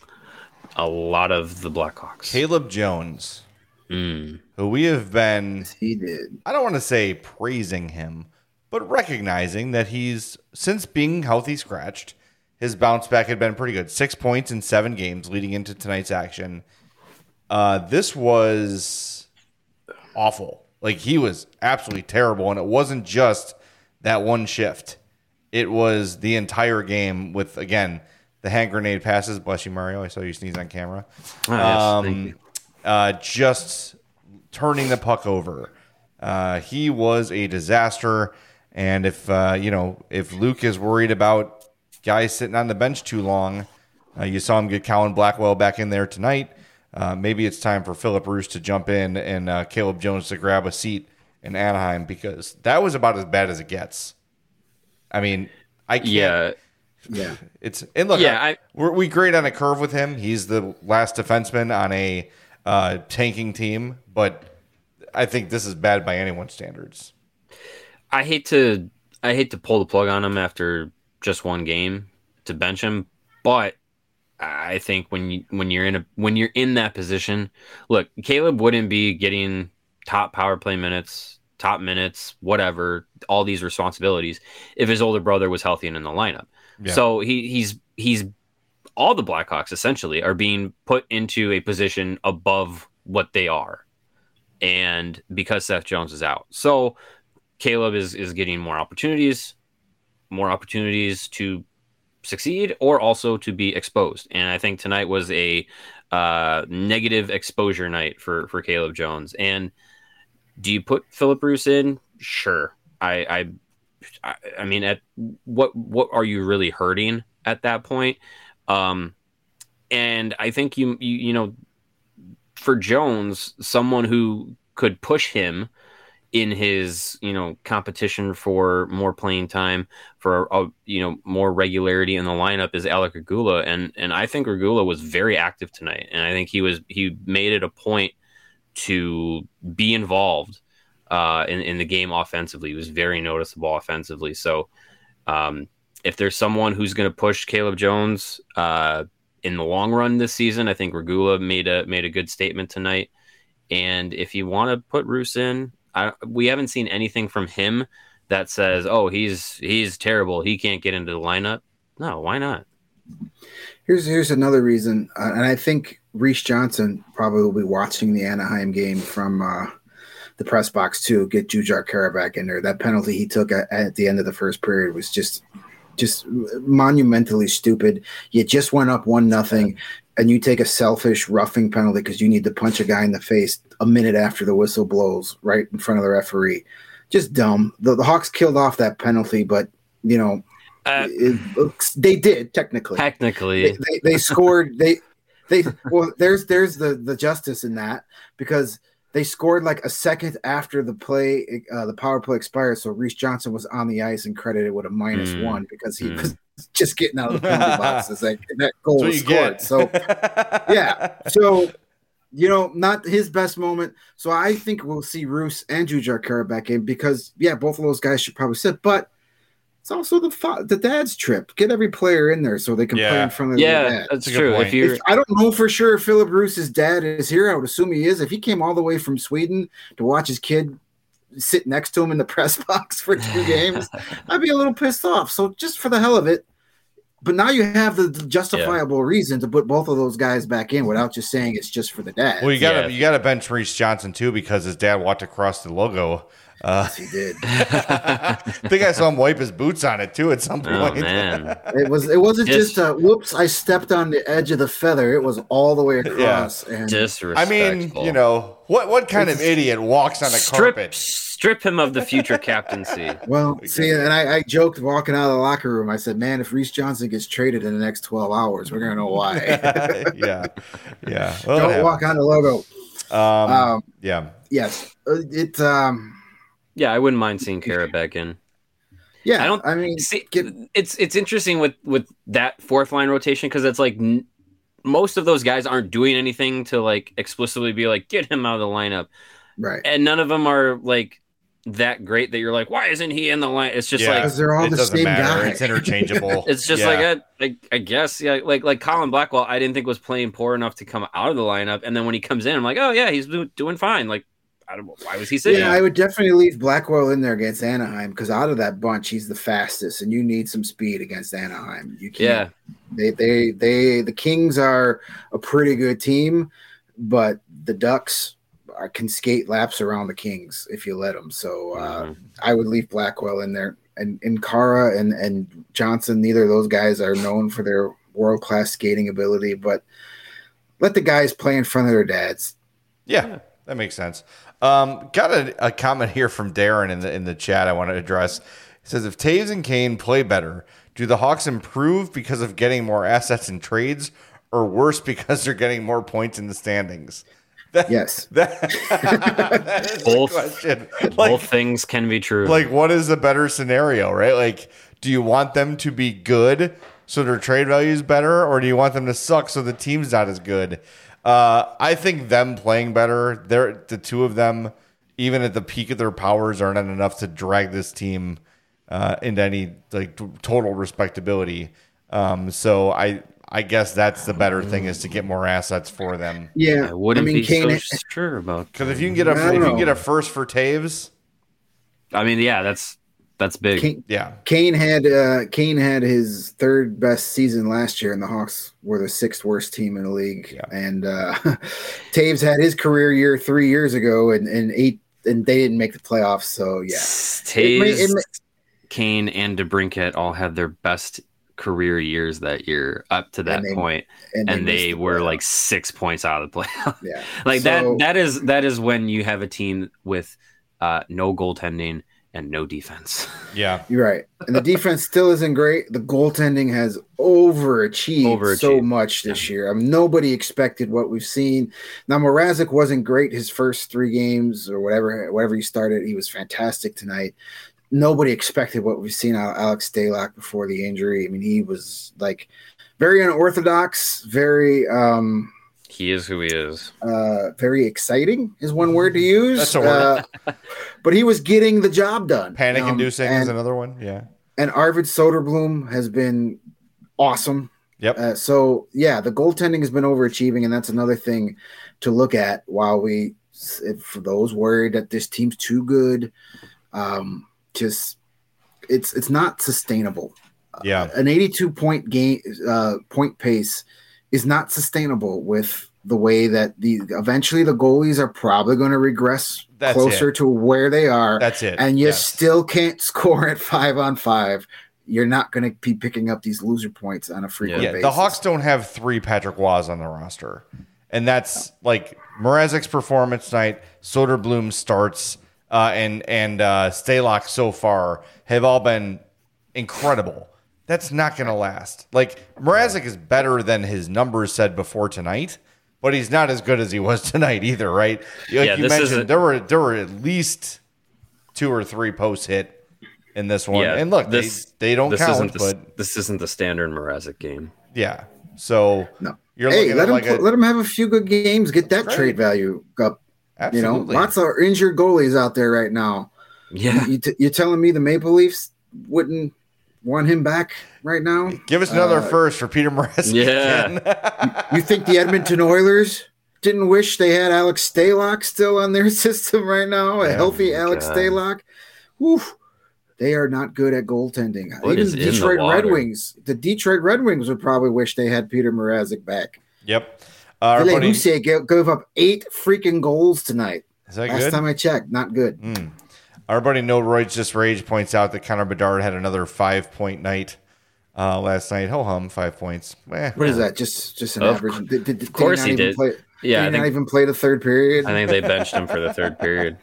A lot of the Blackhawks. Caleb Jones, mm. who we have been, he did. I don't want to say praising him, but recognizing that he's, since being healthy scratched, his bounce back had been pretty good. Six points in seven games leading into tonight's action. Uh, this was awful. Like, he was absolutely terrible, and it wasn't just that one shift. It was the entire game with, again, the hand grenade passes. Bless you, Mario. I saw you sneeze on camera. Oh, yes, um, thank you. Uh, just turning the puck over. Uh, he was a disaster. And if, uh, you know, if Luke is worried about guys sitting on the bench too long, uh, you saw him get Colin Blackwell back in there tonight. Uh, maybe it's time for Philip Roos to jump in and uh, Caleb Jones to grab a seat in Anaheim, because that was about as bad as it gets. I mean, I can't. Yeah. Yeah. It's and look, Yeah, I, I- we're, we grade on a curve with him. He's the last defenseman on a uh, tanking team, but I think this is bad by anyone's standards. I hate to I hate to pull the plug on him after just one game to bench him, but I think when you when you're in a when you're in that position, look, Caleb wouldn't be getting top power play minutes, top minutes, whatever, all these responsibilities if his older brother was healthy and in the lineup. Yeah. So he he's he's all the Blackhawks essentially are being put into a position above what they are, and because Seth Jones is out, so Caleb is is getting more opportunities, more opportunities to succeed or also to be exposed. And I think tonight was a uh, negative exposure night for for Caleb Jones. And do you put Philip Roos in? Sure. I I I mean, at what what are you really hurting at that point? Um, and I think you you you know, for Jones, someone who could push him in his, you know, competition for more playing time, for a, you know, more regularity in the lineup is Alec Regula, and and I think Regula was very active tonight, and I think he was he made it a point to be involved uh, in in the game offensively. He was very noticeable offensively. So um, if there's someone who's going to push Caleb Jones uh, in the long run this season, I think Regula made a made a good statement tonight. And if you want to put Roos in, I, we haven't seen anything from him that says, "Oh, he's he's terrible. He can't get into the lineup." No, why not? Here's here's another reason, uh, and I think Reese Johnson probably will be watching the Anaheim game from uh, the press box too. Get Jujhar Khaira back in there. That penalty he took at, at the end of the first period was just just monumentally stupid. You just went up one nothing. And you take a selfish roughing penalty because you need to punch a guy in the face a minute after the whistle blows right in front of the referee. Just dumb. The, the Hawks killed off that penalty, but, you know, Uh, it, it, they did technically. Technically, They, they, they scored. They they well, there's there's the, the justice in that, because they scored like a second after the play, uh, the power play expired. So Reese Johnson was on the ice and credited with a minus Mm. one because he Mm. was just getting out of the penalty box as that, that goal That's what was you scored. get. So yeah, so you know, not his best moment. So I think we'll see Roos and Jujhar Khaira back in, because yeah, both of those guys should probably sit, but it's also the fa- the dad's trip. Get every player in there so they can play Yeah. in front of their yeah, dad. that's That's a good true. point. If you If, I don't know for sure if Philip Roos's dad is here. I would assume he is. If he came all the way from Sweden to watch his kid sit next to him in the press box for two games, I'd be a little pissed off. So just for the hell of it. But now you have the justifiable reason to put both of those guys back in without just saying it's just for the dad. Well, you gotta Yeah. you gotta bench Reese Johnson too, because his dad walked across the logo. Uh, Yes, he did. I think I saw him wipe his boots on it too at some oh point. man, It was. It wasn't Just- just a whoops. I stepped on the edge of the feather. It was all the way across. And I disrespectful. mean, you know, what what kind of idiot walks on a strip carpet? strip him of the future captaincy. well, see, and I, I joked walking out of the locker room. I said, "Man, if Reese Johnson gets traded in the next twelve hours, we're gonna know why." yeah, yeah. Well, it Don't happens. walk on the logo. Um, Um, yeah, yes, uh, it. Um, Yeah, I wouldn't mind seeing Kara back in. Yeah, I don't I mean, see. get, It's it's interesting with with that fourth line rotation because it's like n- most of those guys aren't doing anything to like explicitly be like get him out of the lineup, right. and none of them are like that great that you're like why isn't he in the line? It's just Yeah, like Because they're all it the doesn't same matter. guy. It's interchangeable. it's just Yeah. like I, I I guess yeah like like Colin Blackwell I didn't think was playing poor enough to come out of the lineup, and then when he comes in I'm like oh yeah he's do- doing fine. Like I don't know why was he sitting? Yeah, I would definitely leave Blackwell in there against Anaheim because out of that bunch, he's the fastest, and you need some speed against Anaheim. You can't. Yeah. They, they, they. The Kings are a pretty good team, but the Ducks are, can skate laps around the Kings if you let them. So uh, Mhm. I would leave Blackwell in there, and and Kara and and Johnson. Neither of those guys are known for their world class skating ability, but let the guys play in front of their dads. Yeah, Yeah. that makes sense. Um, got a, a comment here from Darren in the in the chat I want to address. He says, if Taves and Kane play better, do the Hawks improve because of getting more assets in trades, or worse because they're getting more points in the standings? That, Yes. That, that is Both- the question. Both Like, things can be true. like, what is the better scenario, right? Like, do you want them to be good so their trade value is better, or do you want them to suck so the team's not as good? Uh, I think them playing better, they're the two of them, even at the peak of their powers, are not enough to drag this team uh, into any like t- total respectability. Um, so I, I guess that's the better thing is to get more assets for them. Yeah, I wouldn't mean, be Kane, so sure about Because if you can get a I if don't you can know. get a first for Taves, I mean yeah that's that's big. Kane, yeah, Kane had uh, Kane had his third best season last year, and the Hawks were the sixth worst team in the league. Yeah. And uh, Taves had his career year three years ago, and, and eight, and they didn't make the playoffs. So yeah, It may- Taves, it may- Kane, and DeBrincat all had their best career years that year up to that And they- point, and, and missed they the were playoffs. like six points out of the playoff. yeah, like So- that. That is that is when you have a team with uh, no goaltending and no defense. yeah, You're right. And the defense still isn't great. The goaltending has overachieved, Overachieved. so much this year. I mean, nobody expected what we've seen. Now, Mrazek wasn't great his first three games or whatever, whatever he started. He was fantastic tonight. Nobody expected what we've seen out of Alex Stalock before the injury. I mean, he was like very unorthodox, very um He is who he is. uh very exciting is one word to use. That's a word. Uh, but he was getting the job done. panic inducing Um, is and- another one. Yeah, and Arvid Soderblom has been awesome. yep, Uh, so yeah, the goaltending has been overachieving, and that's another thing to look at. While we, if for those worried that this team's too good, um, just it's it's not sustainable. yeah. An eighty-two point game uh, point pace is not sustainable with the way that the eventually the goalies are probably going to regress That's closer it. to where they are. That's it. And you Yes. still can't score at five on five. You're not going to be picking up these loser points on a frequent Yeah, basis. the Hawks don't have three Patrick Waws on the roster. And that's like Mrazek's performance tonight, Soderblom starts, uh, and and uh, Stalock so far have all been incredible. That's not going to last. Like, Mrazek is better than his numbers said before tonight, but he's not as good as he was tonight either, right? Like Yeah, you this mentioned, isn't- there were there were at least two or three posts hit in this one. Yeah, and look, this they, they don't this count, isn't the, but this isn't the standard Mrazek game. yeah. So No. you're Hey, looking let at him like pl- a, let him have a few good games. Get that That's trade right. value up. absolutely. You know, lots of injured goalies out there right now. Yeah, You t- you're telling me the Maple Leafs wouldn't want him back right now? Give us another Uh, first for Peter Mrazek. Yeah. again. You think the Edmonton Oilers didn't wish they had Alex Stalock still on their system right now? A Yeah, healthy Alex God. Stalock? Woof. They are not good at goaltending. What Even is the in the Detroit Red water? Wings, the Detroit Red Wings would probably wish they had Peter Mrazek back. Yep. Uh, our Ville buddy, is Hussier gave, gave up eight freaking goals tonight. that Last good? time I checked, not good. Mm. Our buddy No Roy's Just Rage points out that Connor Bedard had another five point night uh, last night. Ho hum, five points. Eh. What is that? Just just an Of average. Did, did, did, of course not he even did. Play, yeah. did I he not think even play the third period? I think they benched him for the third period.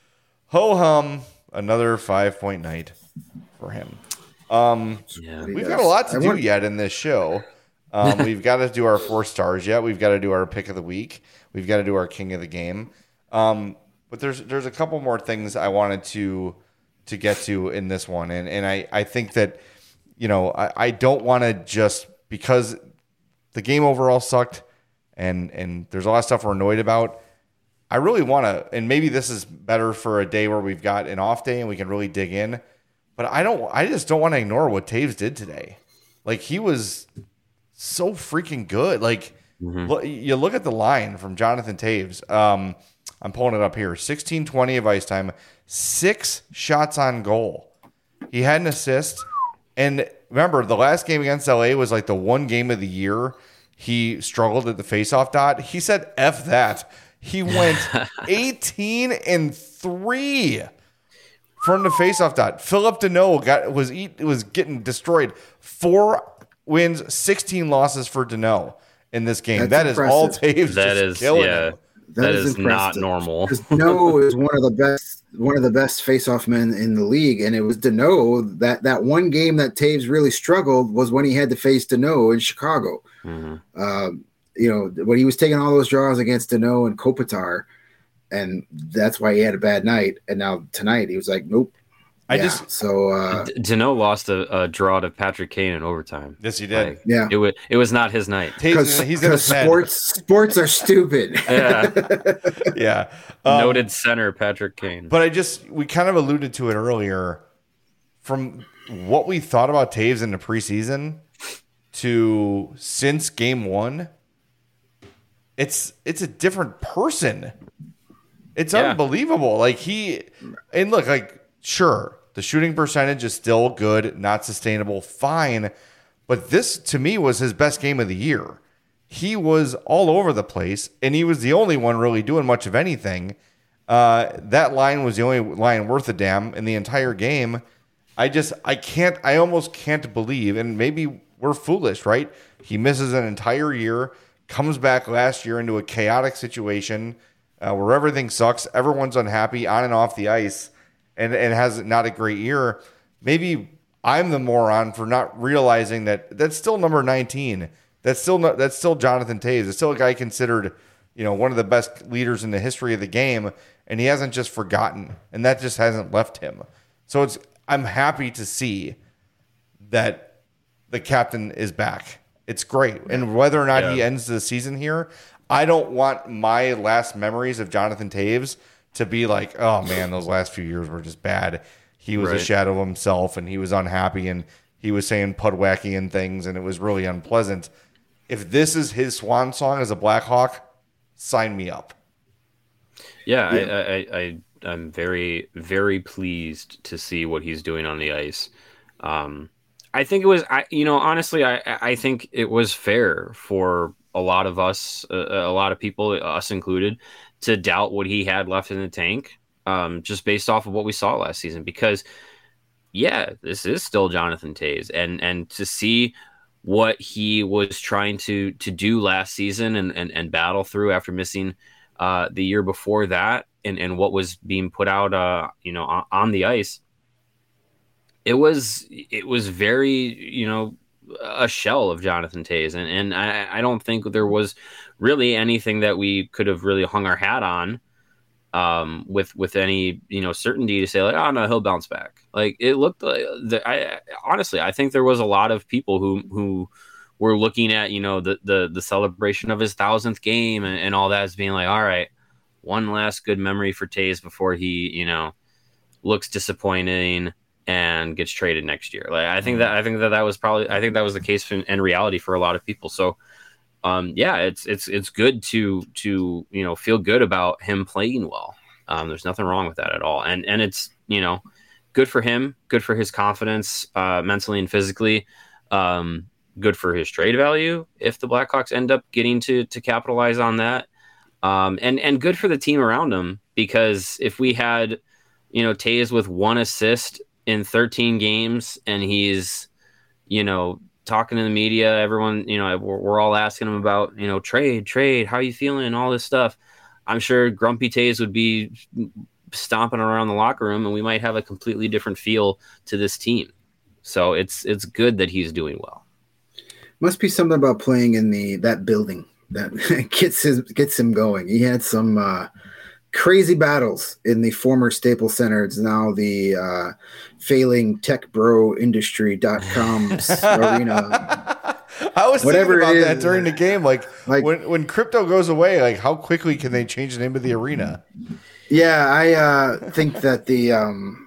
Ho hum, another five point night for him. Um, Yeah, He we've does. got a lot to I do want- yet in this show. Um, we've got to do our four stars yet. We've got to do our pick of the week. We've got to do our king of the game. Um, but there's there's a couple more things I wanted to to get to in this one, and and I I think that you know I, I don't want to just because the game overall sucked, and and there's a lot of stuff we're annoyed about. I really want to, and maybe this is better for a day where we've got an off day and we can really dig in. But I don't. I just don't want to ignore what Toews did today. Like he was so freaking good. Like mm-hmm. look, you look at the line from Jonathan Toews. Um, I'm pulling it up here. sixteen twenty of ice time, six shots on goal. He had an assist. And remember, the last game against L A was like the one game of the year he struggled at the faceoff dot. He said, F that. He went eighteen and three from the faceoff dot. Philip Deneau got was eat, was getting destroyed. Four wins, sixteen losses for Deneau in this game. That's that impressive. Is all Toews that just is, killing yeah. him. That, that is, is not normal. Deneau is one of the best, one of the best face-off men in the league, and it was Deneau that that one game that Toews really struggled was when he had to face Deneau in Chicago. Mm-hmm. Um, you know, when he was taking all those draws against Deneau and Kopitar, and that's why he had a bad night. And now tonight he was like, nope. I yeah, just so uh, Deneau lost a, a draw to Patrick Kane in overtime. Yes, he did. Like, yeah, it was it was not his night because he's in sports. Sports are stupid. Yeah, yeah. Um, Noted center Patrick Kane. But I just we kind of alluded to it earlier. From what we thought about Toews in the preseason to since game one, it's it's a different person. It's yeah. unbelievable. Like he and look like sure. The shooting percentage is still good, not sustainable, fine. But this, to me, was his best game of the year. He was all over the place, and he was the only one really doing much of anything. Uh, that line was the only line worth a damn in the entire game. I just, I can't, I almost can't believe, and maybe we're foolish, right? He misses an entire year, comes back last year into a chaotic situation uh, where everything sucks, everyone's unhappy on and off the ice, and, and has not a great year. Maybe I'm the moron for not realizing that that's still number nineteen. That's still not, that's still Jonathan Toews. It's still a guy considered, you know, one of the best leaders in the history of the game, and he hasn't just forgotten, and that just hasn't left him. So it's I'm happy to see that the captain is back. It's great. And whether or not yeah. he ends the season here, I don't want my last memories of Jonathan Toews to be like, oh man, those last few years were just bad. He was right. a shadow of himself, and he was unhappy, and he was saying Pudwackian things, and it was really unpleasant. If this is his swan song as a Blackhawk, sign me up. Yeah, yeah. I, I, I, I'm very, very pleased to see what he's doing on the ice. Um, I think it was, I, you know, honestly, I, I think it was fair for a lot of us, uh, a lot of people, us included, to doubt what he had left in the tank, um, just based off of what we saw last season. Because, yeah, this is still Jonathan Toews, and and to see what he was trying to to do last season and and, and battle through after missing uh, the year before that, and, and what was being put out, uh, you know, on, on the ice, it was it was very, you know, a shell of Jonathan Toews, and and I, I don't think there was really anything that we could have really hung our hat on um, with with any, you know, certainty to say like, oh no, he'll bounce back. Like it looked like the, I honestly I think there was a lot of people who who were looking at, you know, the the the celebration of his thousandth game and, and all that as being like, all right, one last good memory for Toews before he, you know, looks disappointing and gets traded next year. Like I think that I think that that was probably I think that was the case in, in reality for a lot of people. So um, yeah, it's it's it's good to to you know feel good about him playing well. Um, there's nothing wrong with that at all, and and it's you know good for him, good for his confidence, uh, mentally and physically. Um, good for his trade value if the Blackhawks end up getting to to capitalize on that, um, and and good for the team around him, because if we had you know Toews with one assist in thirteen games and he's you know talking to the media, everyone, you know, we're, we're all asking him about, you know, trade, trade, how are you feeling, all this stuff. I'm sure Grumpy Toews would be stomping around the locker room, and we might have a completely different feel to this team. So it's it's good that he's doing well. Must be something about playing in the that building that gets his gets him going. He had some uh, crazy battles in the former Staples Center. It's now the uh, failing tech bro industry dot com's arena. I was Whatever thinking about it that is. during the game. Like, Like- when, when crypto goes away, like how quickly can they change the name of the arena? Yeah, I uh, think that the um,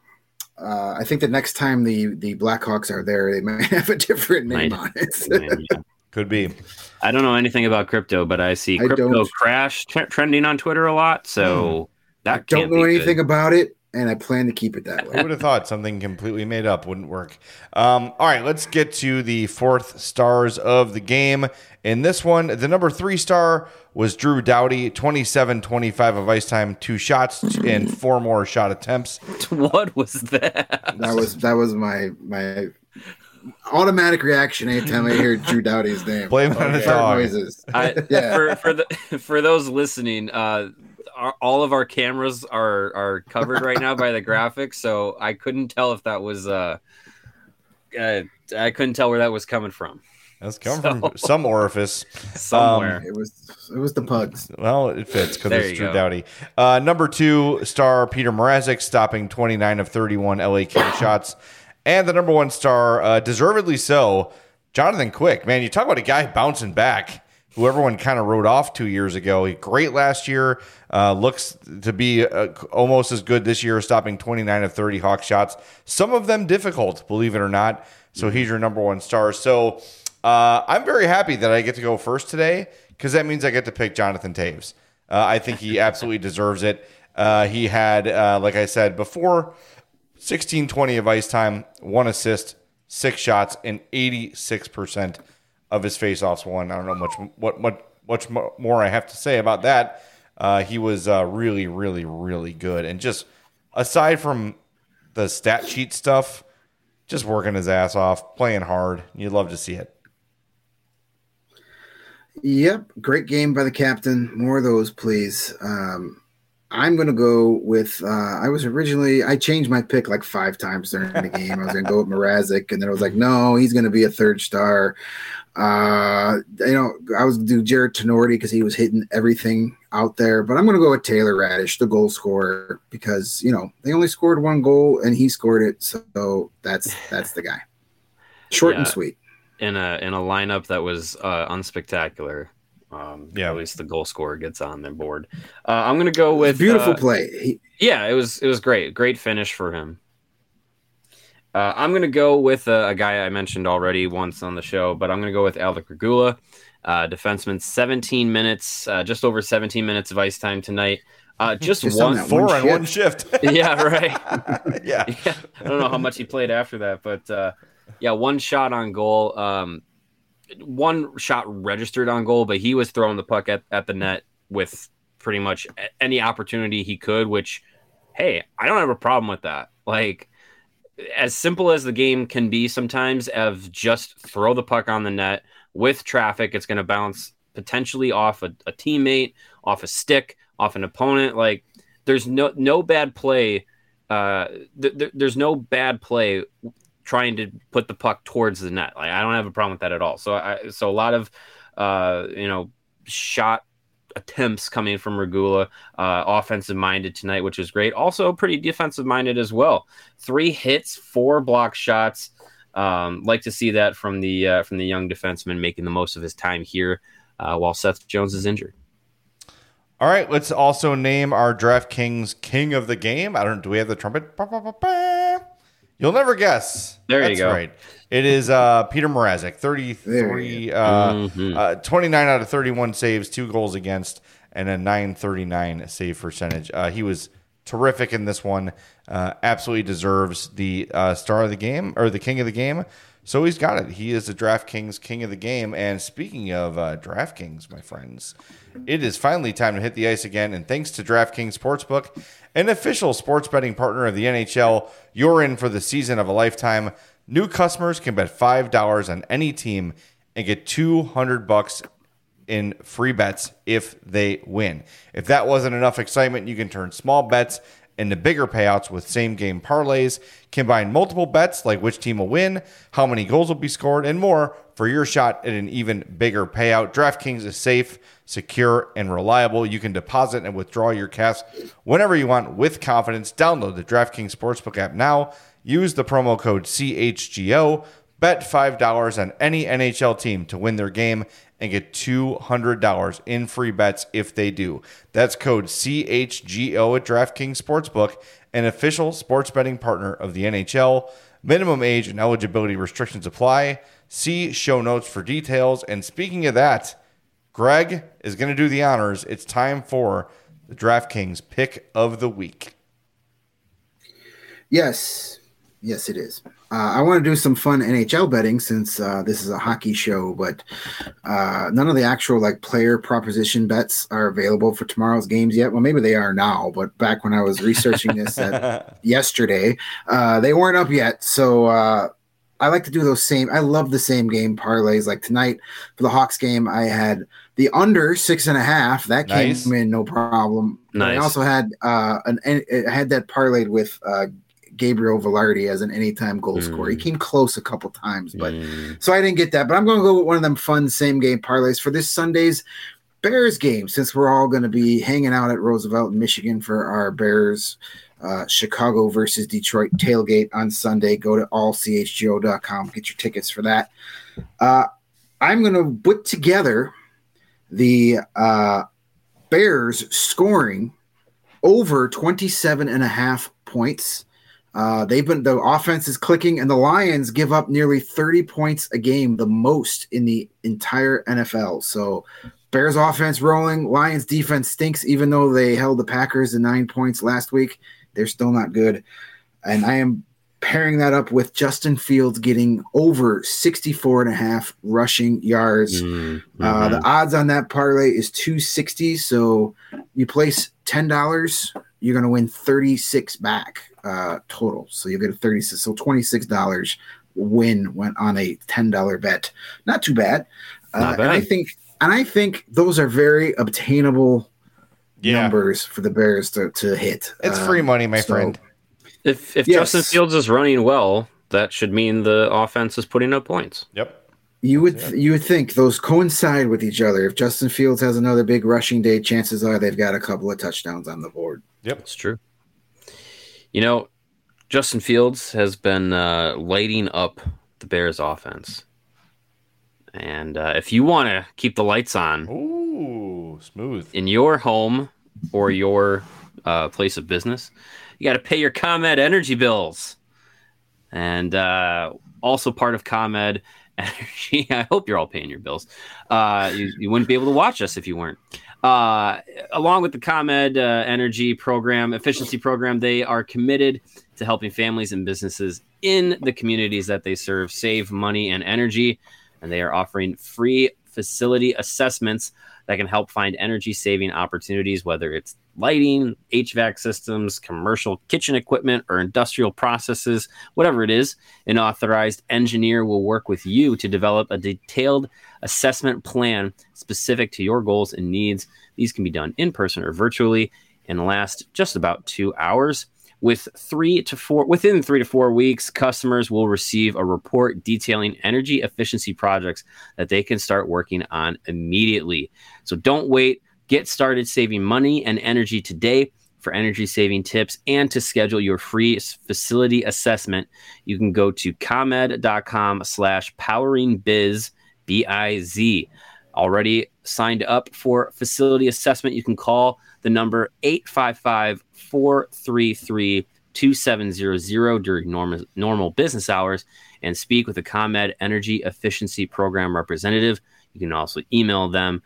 uh, I think the next time the the Blackhawks are there, they might have a different name Might. on it. Yeah. Could be. I don't know anything about crypto, but I see I crypto don't- crash t- trending on Twitter a lot. So that I don't can't know be anything good. about it, and I plan to keep it that Who way. would have thought something completely made up wouldn't work? Um, all right, let's get to the fourth stars of the game. In this one, the number three star was Drew Doughty, twenty-seven twenty-five of ice time, two shots, and four more shot attempts. What was that? That was that was my my automatic reaction anytime I hear Drew Doughty's name. Blame it on the Fart dog. noises. I, Yeah. For for the for those listening, uh, our, all of our cameras are are covered right now by the graphics, so I couldn't tell if that was uh, uh I couldn't tell where that was coming from. That's come So- from some orifice. Somewhere. It was it was the pugs. Well, it fits because There it's you Drew go. Doughty. Uh, number two star, Peter Mrazek, stopping twenty-nine of thirty-one L A King shots. And the number one star, uh, deservedly so, Jonathan Quick. Man, you talk about a guy bouncing back who everyone kind of wrote off two years ago. He great last year. Uh, looks to be uh, almost as good this year, stopping twenty-nine of thirty Hawk shots. Some of them difficult, believe it or not. So he's your number one star. So uh, I'm very happy that I get to go first today because that means I get to pick Jonathan Taves. Uh, I think he absolutely deserves it. Uh, he had, uh, like I said before, sixteen twenty of ice time, one assist, six shots, and eighty-six percent of his faceoffs won. I don't know much what what much mo- more I have to say about that. Uh, he was uh, really, really, really good. And just aside from the stat sheet stuff, just working his ass off, playing hard. You'd love to see it. Yep, great game by the captain. More of those, please. Um, I'm going to go with. Uh, I was originally. I changed my pick like five times during the game. I was going to go with Mrazek, and then I was like, no, he's going to be a third star. Uh, you know, I was going to do Jared Tenorti because he was hitting everything out there, but I'm going to go with Taylor Radish, the goal scorer, because you know they only scored one goal and he scored it, so that's that's the guy. Short and Yeah. sweet. in a in a lineup that was uh, unspectacular. Um, Yeah. at least the goal scorer gets on their board. Uh, I'm gonna go with Beautiful uh, play. He, Yeah, it was it was great, great finish for him. Uh, I'm gonna go with a, a guy I mentioned already once on the show, but I'm gonna go with Alec Regula, uh, defenseman, seventeen minutes, uh, just over seventeen minutes of ice time tonight. Uh, just, Just on one, that Four one on one shift. yeah, right. yeah. Yeah, I don't know how much he played after that, but uh, yeah, one shot on goal. Um, one shot registered on goal, but he was throwing the puck at, at the net with pretty much a- any opportunity he could, which, hey, I don't have a problem with that. Like, as simple as the game can be sometimes, of just throw the puck on the net with traffic, it's going to bounce potentially off a, a teammate, off a stick, off an opponent. Like, there's no no bad play. Uh, th- th- there's no bad play trying to put the puck towards the net. Like, I don't have a problem with that at all. So I so a lot of uh, you know shot attempts coming from Regula, uh, offensive minded tonight, which is great. Also pretty defensive minded as well. Three hits, four block shots. Um, like to see that from the uh, from the young defenseman making the most of his time here uh, while Seth Jones is injured. All right, let's also name our DraftKings King of the Game. I don't. Do we have the trumpet? Ba, ba, ba, ba. You'll never guess. There you That's go. Right. It is uh, Peter Mrazek, thirty-three, uh, Mhm. uh, twenty-nine out of thirty-one saves, two goals against, and a nine thirty-nine save percentage. Uh, he was terrific in this one. Uh, absolutely deserves the uh, star of the game or the king of the game. So he's got it. He is the DraftKings King of the Game. And speaking of uh, DraftKings, my friends, it is finally time to hit the ice again. And thanks to DraftKings Sportsbook, an official sports betting partner of the N H L, you're in for the season of a lifetime. New customers can bet five dollars on any team and get two hundred bucks in free bets if they win. If that wasn't enough excitement, you can turn small bets into bigger payouts with same-game parlays. Combine multiple bets like which team will win, how many goals will be scored, and more for your shot at an even bigger payout. DraftKings is safe, secure, and reliable. You can deposit and withdraw your cash whenever you want with confidence. Download the DraftKings Sportsbook app now. Use the promo code C H G O. Bet five dollars on any N H L team to win their game and get two hundred dollars in free bets if they do. That's code C H G O at DraftKings Sportsbook, an official sports betting partner of the N H L. Minimum age and eligibility restrictions apply. See show notes for details. And speaking of that, Greg is going to do the honors. It's time for the DraftKings Pick of the Week. Yes. Yes, it is. Uh, I want to do some fun N H L betting since uh, this is a hockey show, but uh, none of the actual like player proposition bets are available for tomorrow's games yet. Well, maybe they are now, but back when I was researching this at, yesterday, uh, they weren't up yet. So uh, I like to do those same. I love the same game parlays. Like tonight for the Hawks game, I had the under six and a half. That came nice. in no problem. Nice. I also had uh, an. I had that parlayed with. Uh, Gabriel Velarde as an anytime goal mm. scorer. He came close a couple times, but mm. so I didn't get that. But I'm going to go with one of them fun same game parlays for this Sunday's Bears game, since we're all going to be hanging out at Roosevelt in Michigan for our Bears uh, Chicago versus Detroit tailgate on Sunday. Go to all c h g o dot com, get your tickets for that. Uh, I'm going to put together the uh, Bears scoring over twenty-seven and a half points. Uh, they've been the offense is clicking, and the Lions give up nearly thirty points a game, the most in the entire N F L. So, Bears offense rolling, Lions defense stinks. Even though they held the Packers to nine points last week, they're still not good. And I am pairing that up with Justin Fields getting over sixty-four and a half rushing yards. Mm-hmm. Uh, the odds on that parlay is two sixty. So, you place ten dollars, you're going to win thirty-six back. Uh, total. So you get a thirty-six, so twenty-six dollars win went on a ten dollar bet. Not too bad. Uh, Not bad. And I think, and I think those are very obtainable yeah. numbers for the Bears to, to hit. It's um, free money, my so, friend. If if yes. Justin Fields is running well, that should mean the offense is putting up points. Yep. You would yeah. you would think those coincide with each other. If Justin Fields has another big rushing day, chances are they've got a couple of touchdowns on the board. Yep, it's true. You know, Justin Fields has been uh, lighting up the Bears offense. And uh, if you want to keep the lights on Ooh, smooth in your home or your uh, place of business, you got to pay your ComEd energy bills. And uh, also part of ComEd Energy, I hope you're all paying your bills. Uh, you, you wouldn't be able to watch us if you weren't. Uh, along with the ComEd uh, Energy program, efficiency program, they are committed to helping families and businesses in the communities that they serve save money and energy. And they are offering free facility assessments that can help find energy saving opportunities, whether it's lighting, H V A C systems, commercial kitchen equipment, or industrial processes, whatever it is. An authorized engineer will work with you to develop a detailed assessment plan specific to your goals and needs. These can be done in person or virtually and last just about two hours. With three to four, within three to four weeks, customers will receive a report detailing energy efficiency projects that they can start working on immediately. So don't wait. Get started saving money and energy today. For energy saving tips and to schedule your free facility assessment, you can go to comed.com slash powering biz, B I Z. Already signed up for facility assessment, you can call the number eight five five, four three three, two seven zero zero during normal, normal business hours and speak with a ComEd Energy Efficiency Program representative. You can also email them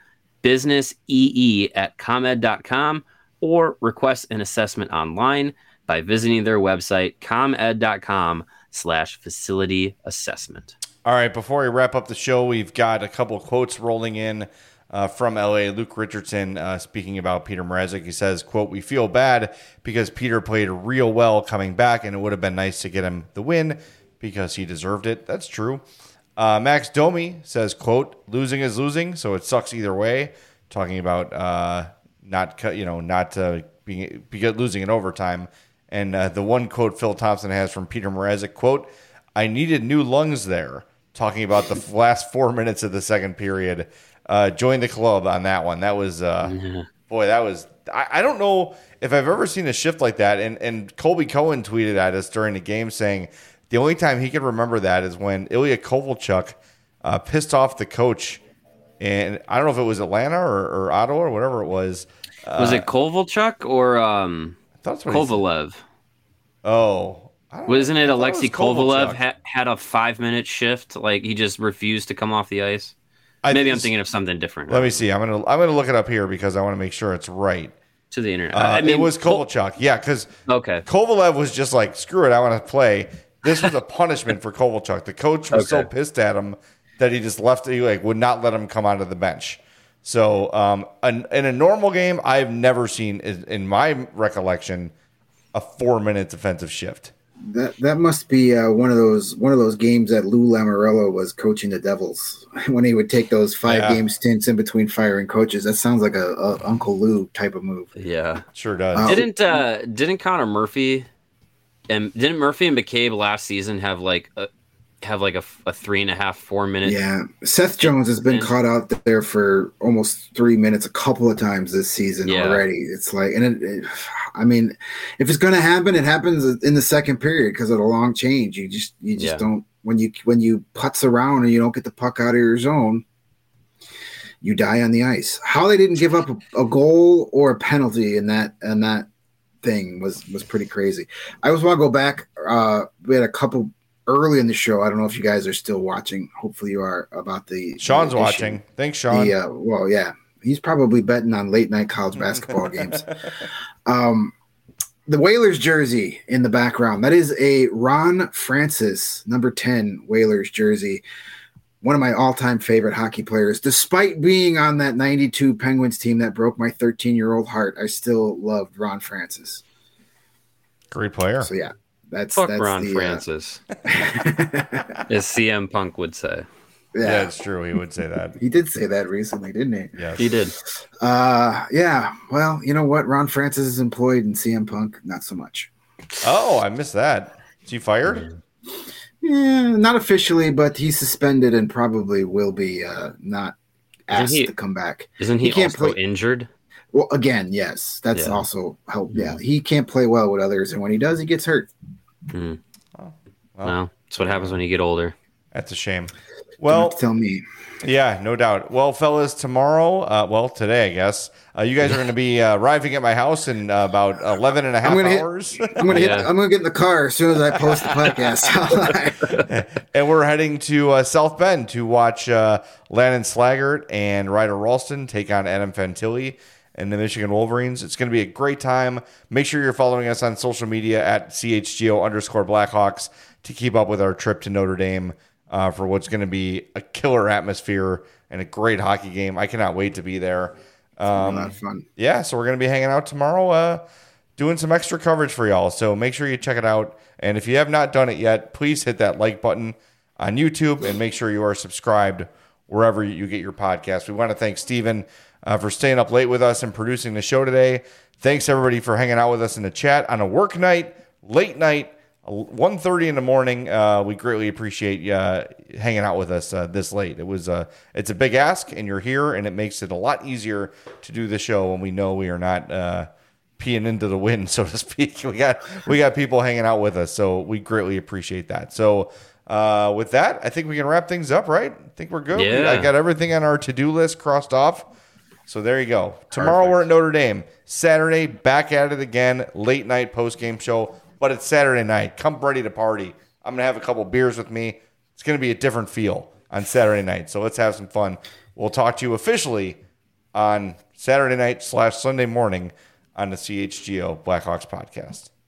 businessee at comed dot com or request an assessment online by visiting their website, comed.com slash facility assessment. All right, before we wrap up the show, we've got a couple of quotes rolling in uh, from L A. Luke Richardson uh, speaking about Peter Mrazek. He says, quote, "We feel bad because Peter played real well coming back, and it would have been nice to get him the win because he deserved it." That's true. Uh, Max Domi says, quote, "Losing is losing, so it sucks either way." Talking about uh, not, you know, not uh, being, being losing in overtime. And uh, the one quote Phil Thompson has from Peter Mrazek, quote, "I needed new lungs there," talking about the last four minutes of the second period. Uh, join the club on that one. That was, uh, yeah. boy, that was, I, I don't know if I've ever seen a shift like that. And, and Colby Cohen tweeted at us during the game saying the only time he can remember that is when Ilya Kovalchuk uh, pissed off the coach. And I don't know if it was Atlanta or, or Ottawa or whatever it was. Uh, was it Kovalchuk or um, Kovalev? Oh. Wasn't it Alexei it Kovalev ha- had a five-minute shift? Like, he just refused to come off the ice? I Maybe I'm thinking of something different. Let me see. I'm gonna I'm gonna look it up here because I want to make sure it's right. To the internet. Uh, I mean, it was Kovalchuk. Yeah, because okay. Kovalev was just like, screw it, I want to play. This was a punishment for Kovalchuk. The coach was okay. so pissed at him that he just left. He like would not let him come onto the bench. So, um, an, in a normal game, I've never seen, in my recollection, a four-minute defensive shift. That that must be uh, one of those one of those games that Lou Lamoriello was coaching the Devils when he would take those five yeah. game stints in between firing coaches. That sounds like a, a Uncle Lou type of move. Yeah, sure does. Uh, didn't uh, didn't Connor Murphy and didn't Murphy and McCabe last season have like a, have like a, a three and a half four minute? Yeah, Seth Jones has been and, caught out there for almost three minutes a couple of times this season yeah. already. It's like, and it, it, I mean, if it's going to happen, it happens in the second period because of the long change. You just you just yeah. don't when you when you putz around and you don't get the puck out of your zone, you die on the ice. How they didn't give up a, a goal or a penalty in that and that thing was was pretty crazy. I just want to go back. Uh, we had a couple early in the show. I don't know if you guys are still watching. Hopefully you are. About the Sean's the watching. Thanks, Sean. The, uh, well, yeah, he's probably betting on late night college basketball games. Um, the Whalers jersey in the background. That is a Ron Francis number ten Whalers jersey. One of my all-time favorite hockey players. Despite being on that ninety-two Penguins team that broke my thirteen-year-old heart, I still loved Ron Francis. Great player. So yeah. That's Fuck that's Ron the, Francis, uh... as C M Punk would say. Yeah. yeah, it's true. He would say that. He did say that recently, didn't he? Yes. He did. Uh, yeah. Well, you know what? Ron Francis is employed in C M Punk, not so much. Oh, I missed that. Is he fired? Yeah, not officially, but he's suspended and probably will be uh, not asked he, to come back. Isn't he, he can't also play... injured? Well, again, yes. That's yeah. also help. Yeah, he can't play well with others, and when he does, he gets hurt. Mm. Oh, well, well, that's what happens when you get older. That's a shame. Well, tell me. Yeah, no doubt. Well, fellas, tomorrow, uh, well, today, I guess, uh, you guys are going to be uh, arriving at my house in uh, about eleven and a half I'm gonna hours. Hit, I'm going yeah. to get in the car as soon as I post the podcast. And we're heading to uh, South Bend to watch uh, Landon Slaggert and Ryder Ralston take on Adam Fantilli and the Michigan Wolverines. It's going to be a great time. Make sure you're following us on social media at C H G O underscore Blackhawks to keep up with our trip to Notre Dame uh, for what's going to be a killer atmosphere and a great hockey game. I cannot wait to be there. Um, a lot of fun. Yeah, so we're going to be hanging out tomorrow, uh, doing some extra coverage for y'all. So make sure you check it out. And if you have not done it yet, please hit that like button on YouTube and make sure you are subscribed wherever you get your podcast. We want to thank Steven Uh, for staying up late with us and producing the show today. Thanks, everybody, for hanging out with us in the chat on a work night, late night, one thirty in the morning. Uh, we greatly appreciate you uh, hanging out with us uh, this late. It was uh, It's a big ask, and you're here, and it makes it a lot easier to do the show when we know we are not uh, peeing into the wind, so to speak. We got we got people hanging out with us, so we greatly appreciate that. So uh, with that, I think we can wrap things up, right? I think we're good. Yeah. I got everything on our to-do list crossed off. So there you go. Tomorrow Perfect. We're at Notre Dame. Saturday, back at it again. Late night post-game show. But it's Saturday night. Come ready to party. I'm going to have a couple beers with me. It's going to be a different feel on Saturday night. So let's have some fun. We'll talk to you officially on Saturday night slash Sunday morning on the C H G O Blackhawks podcast.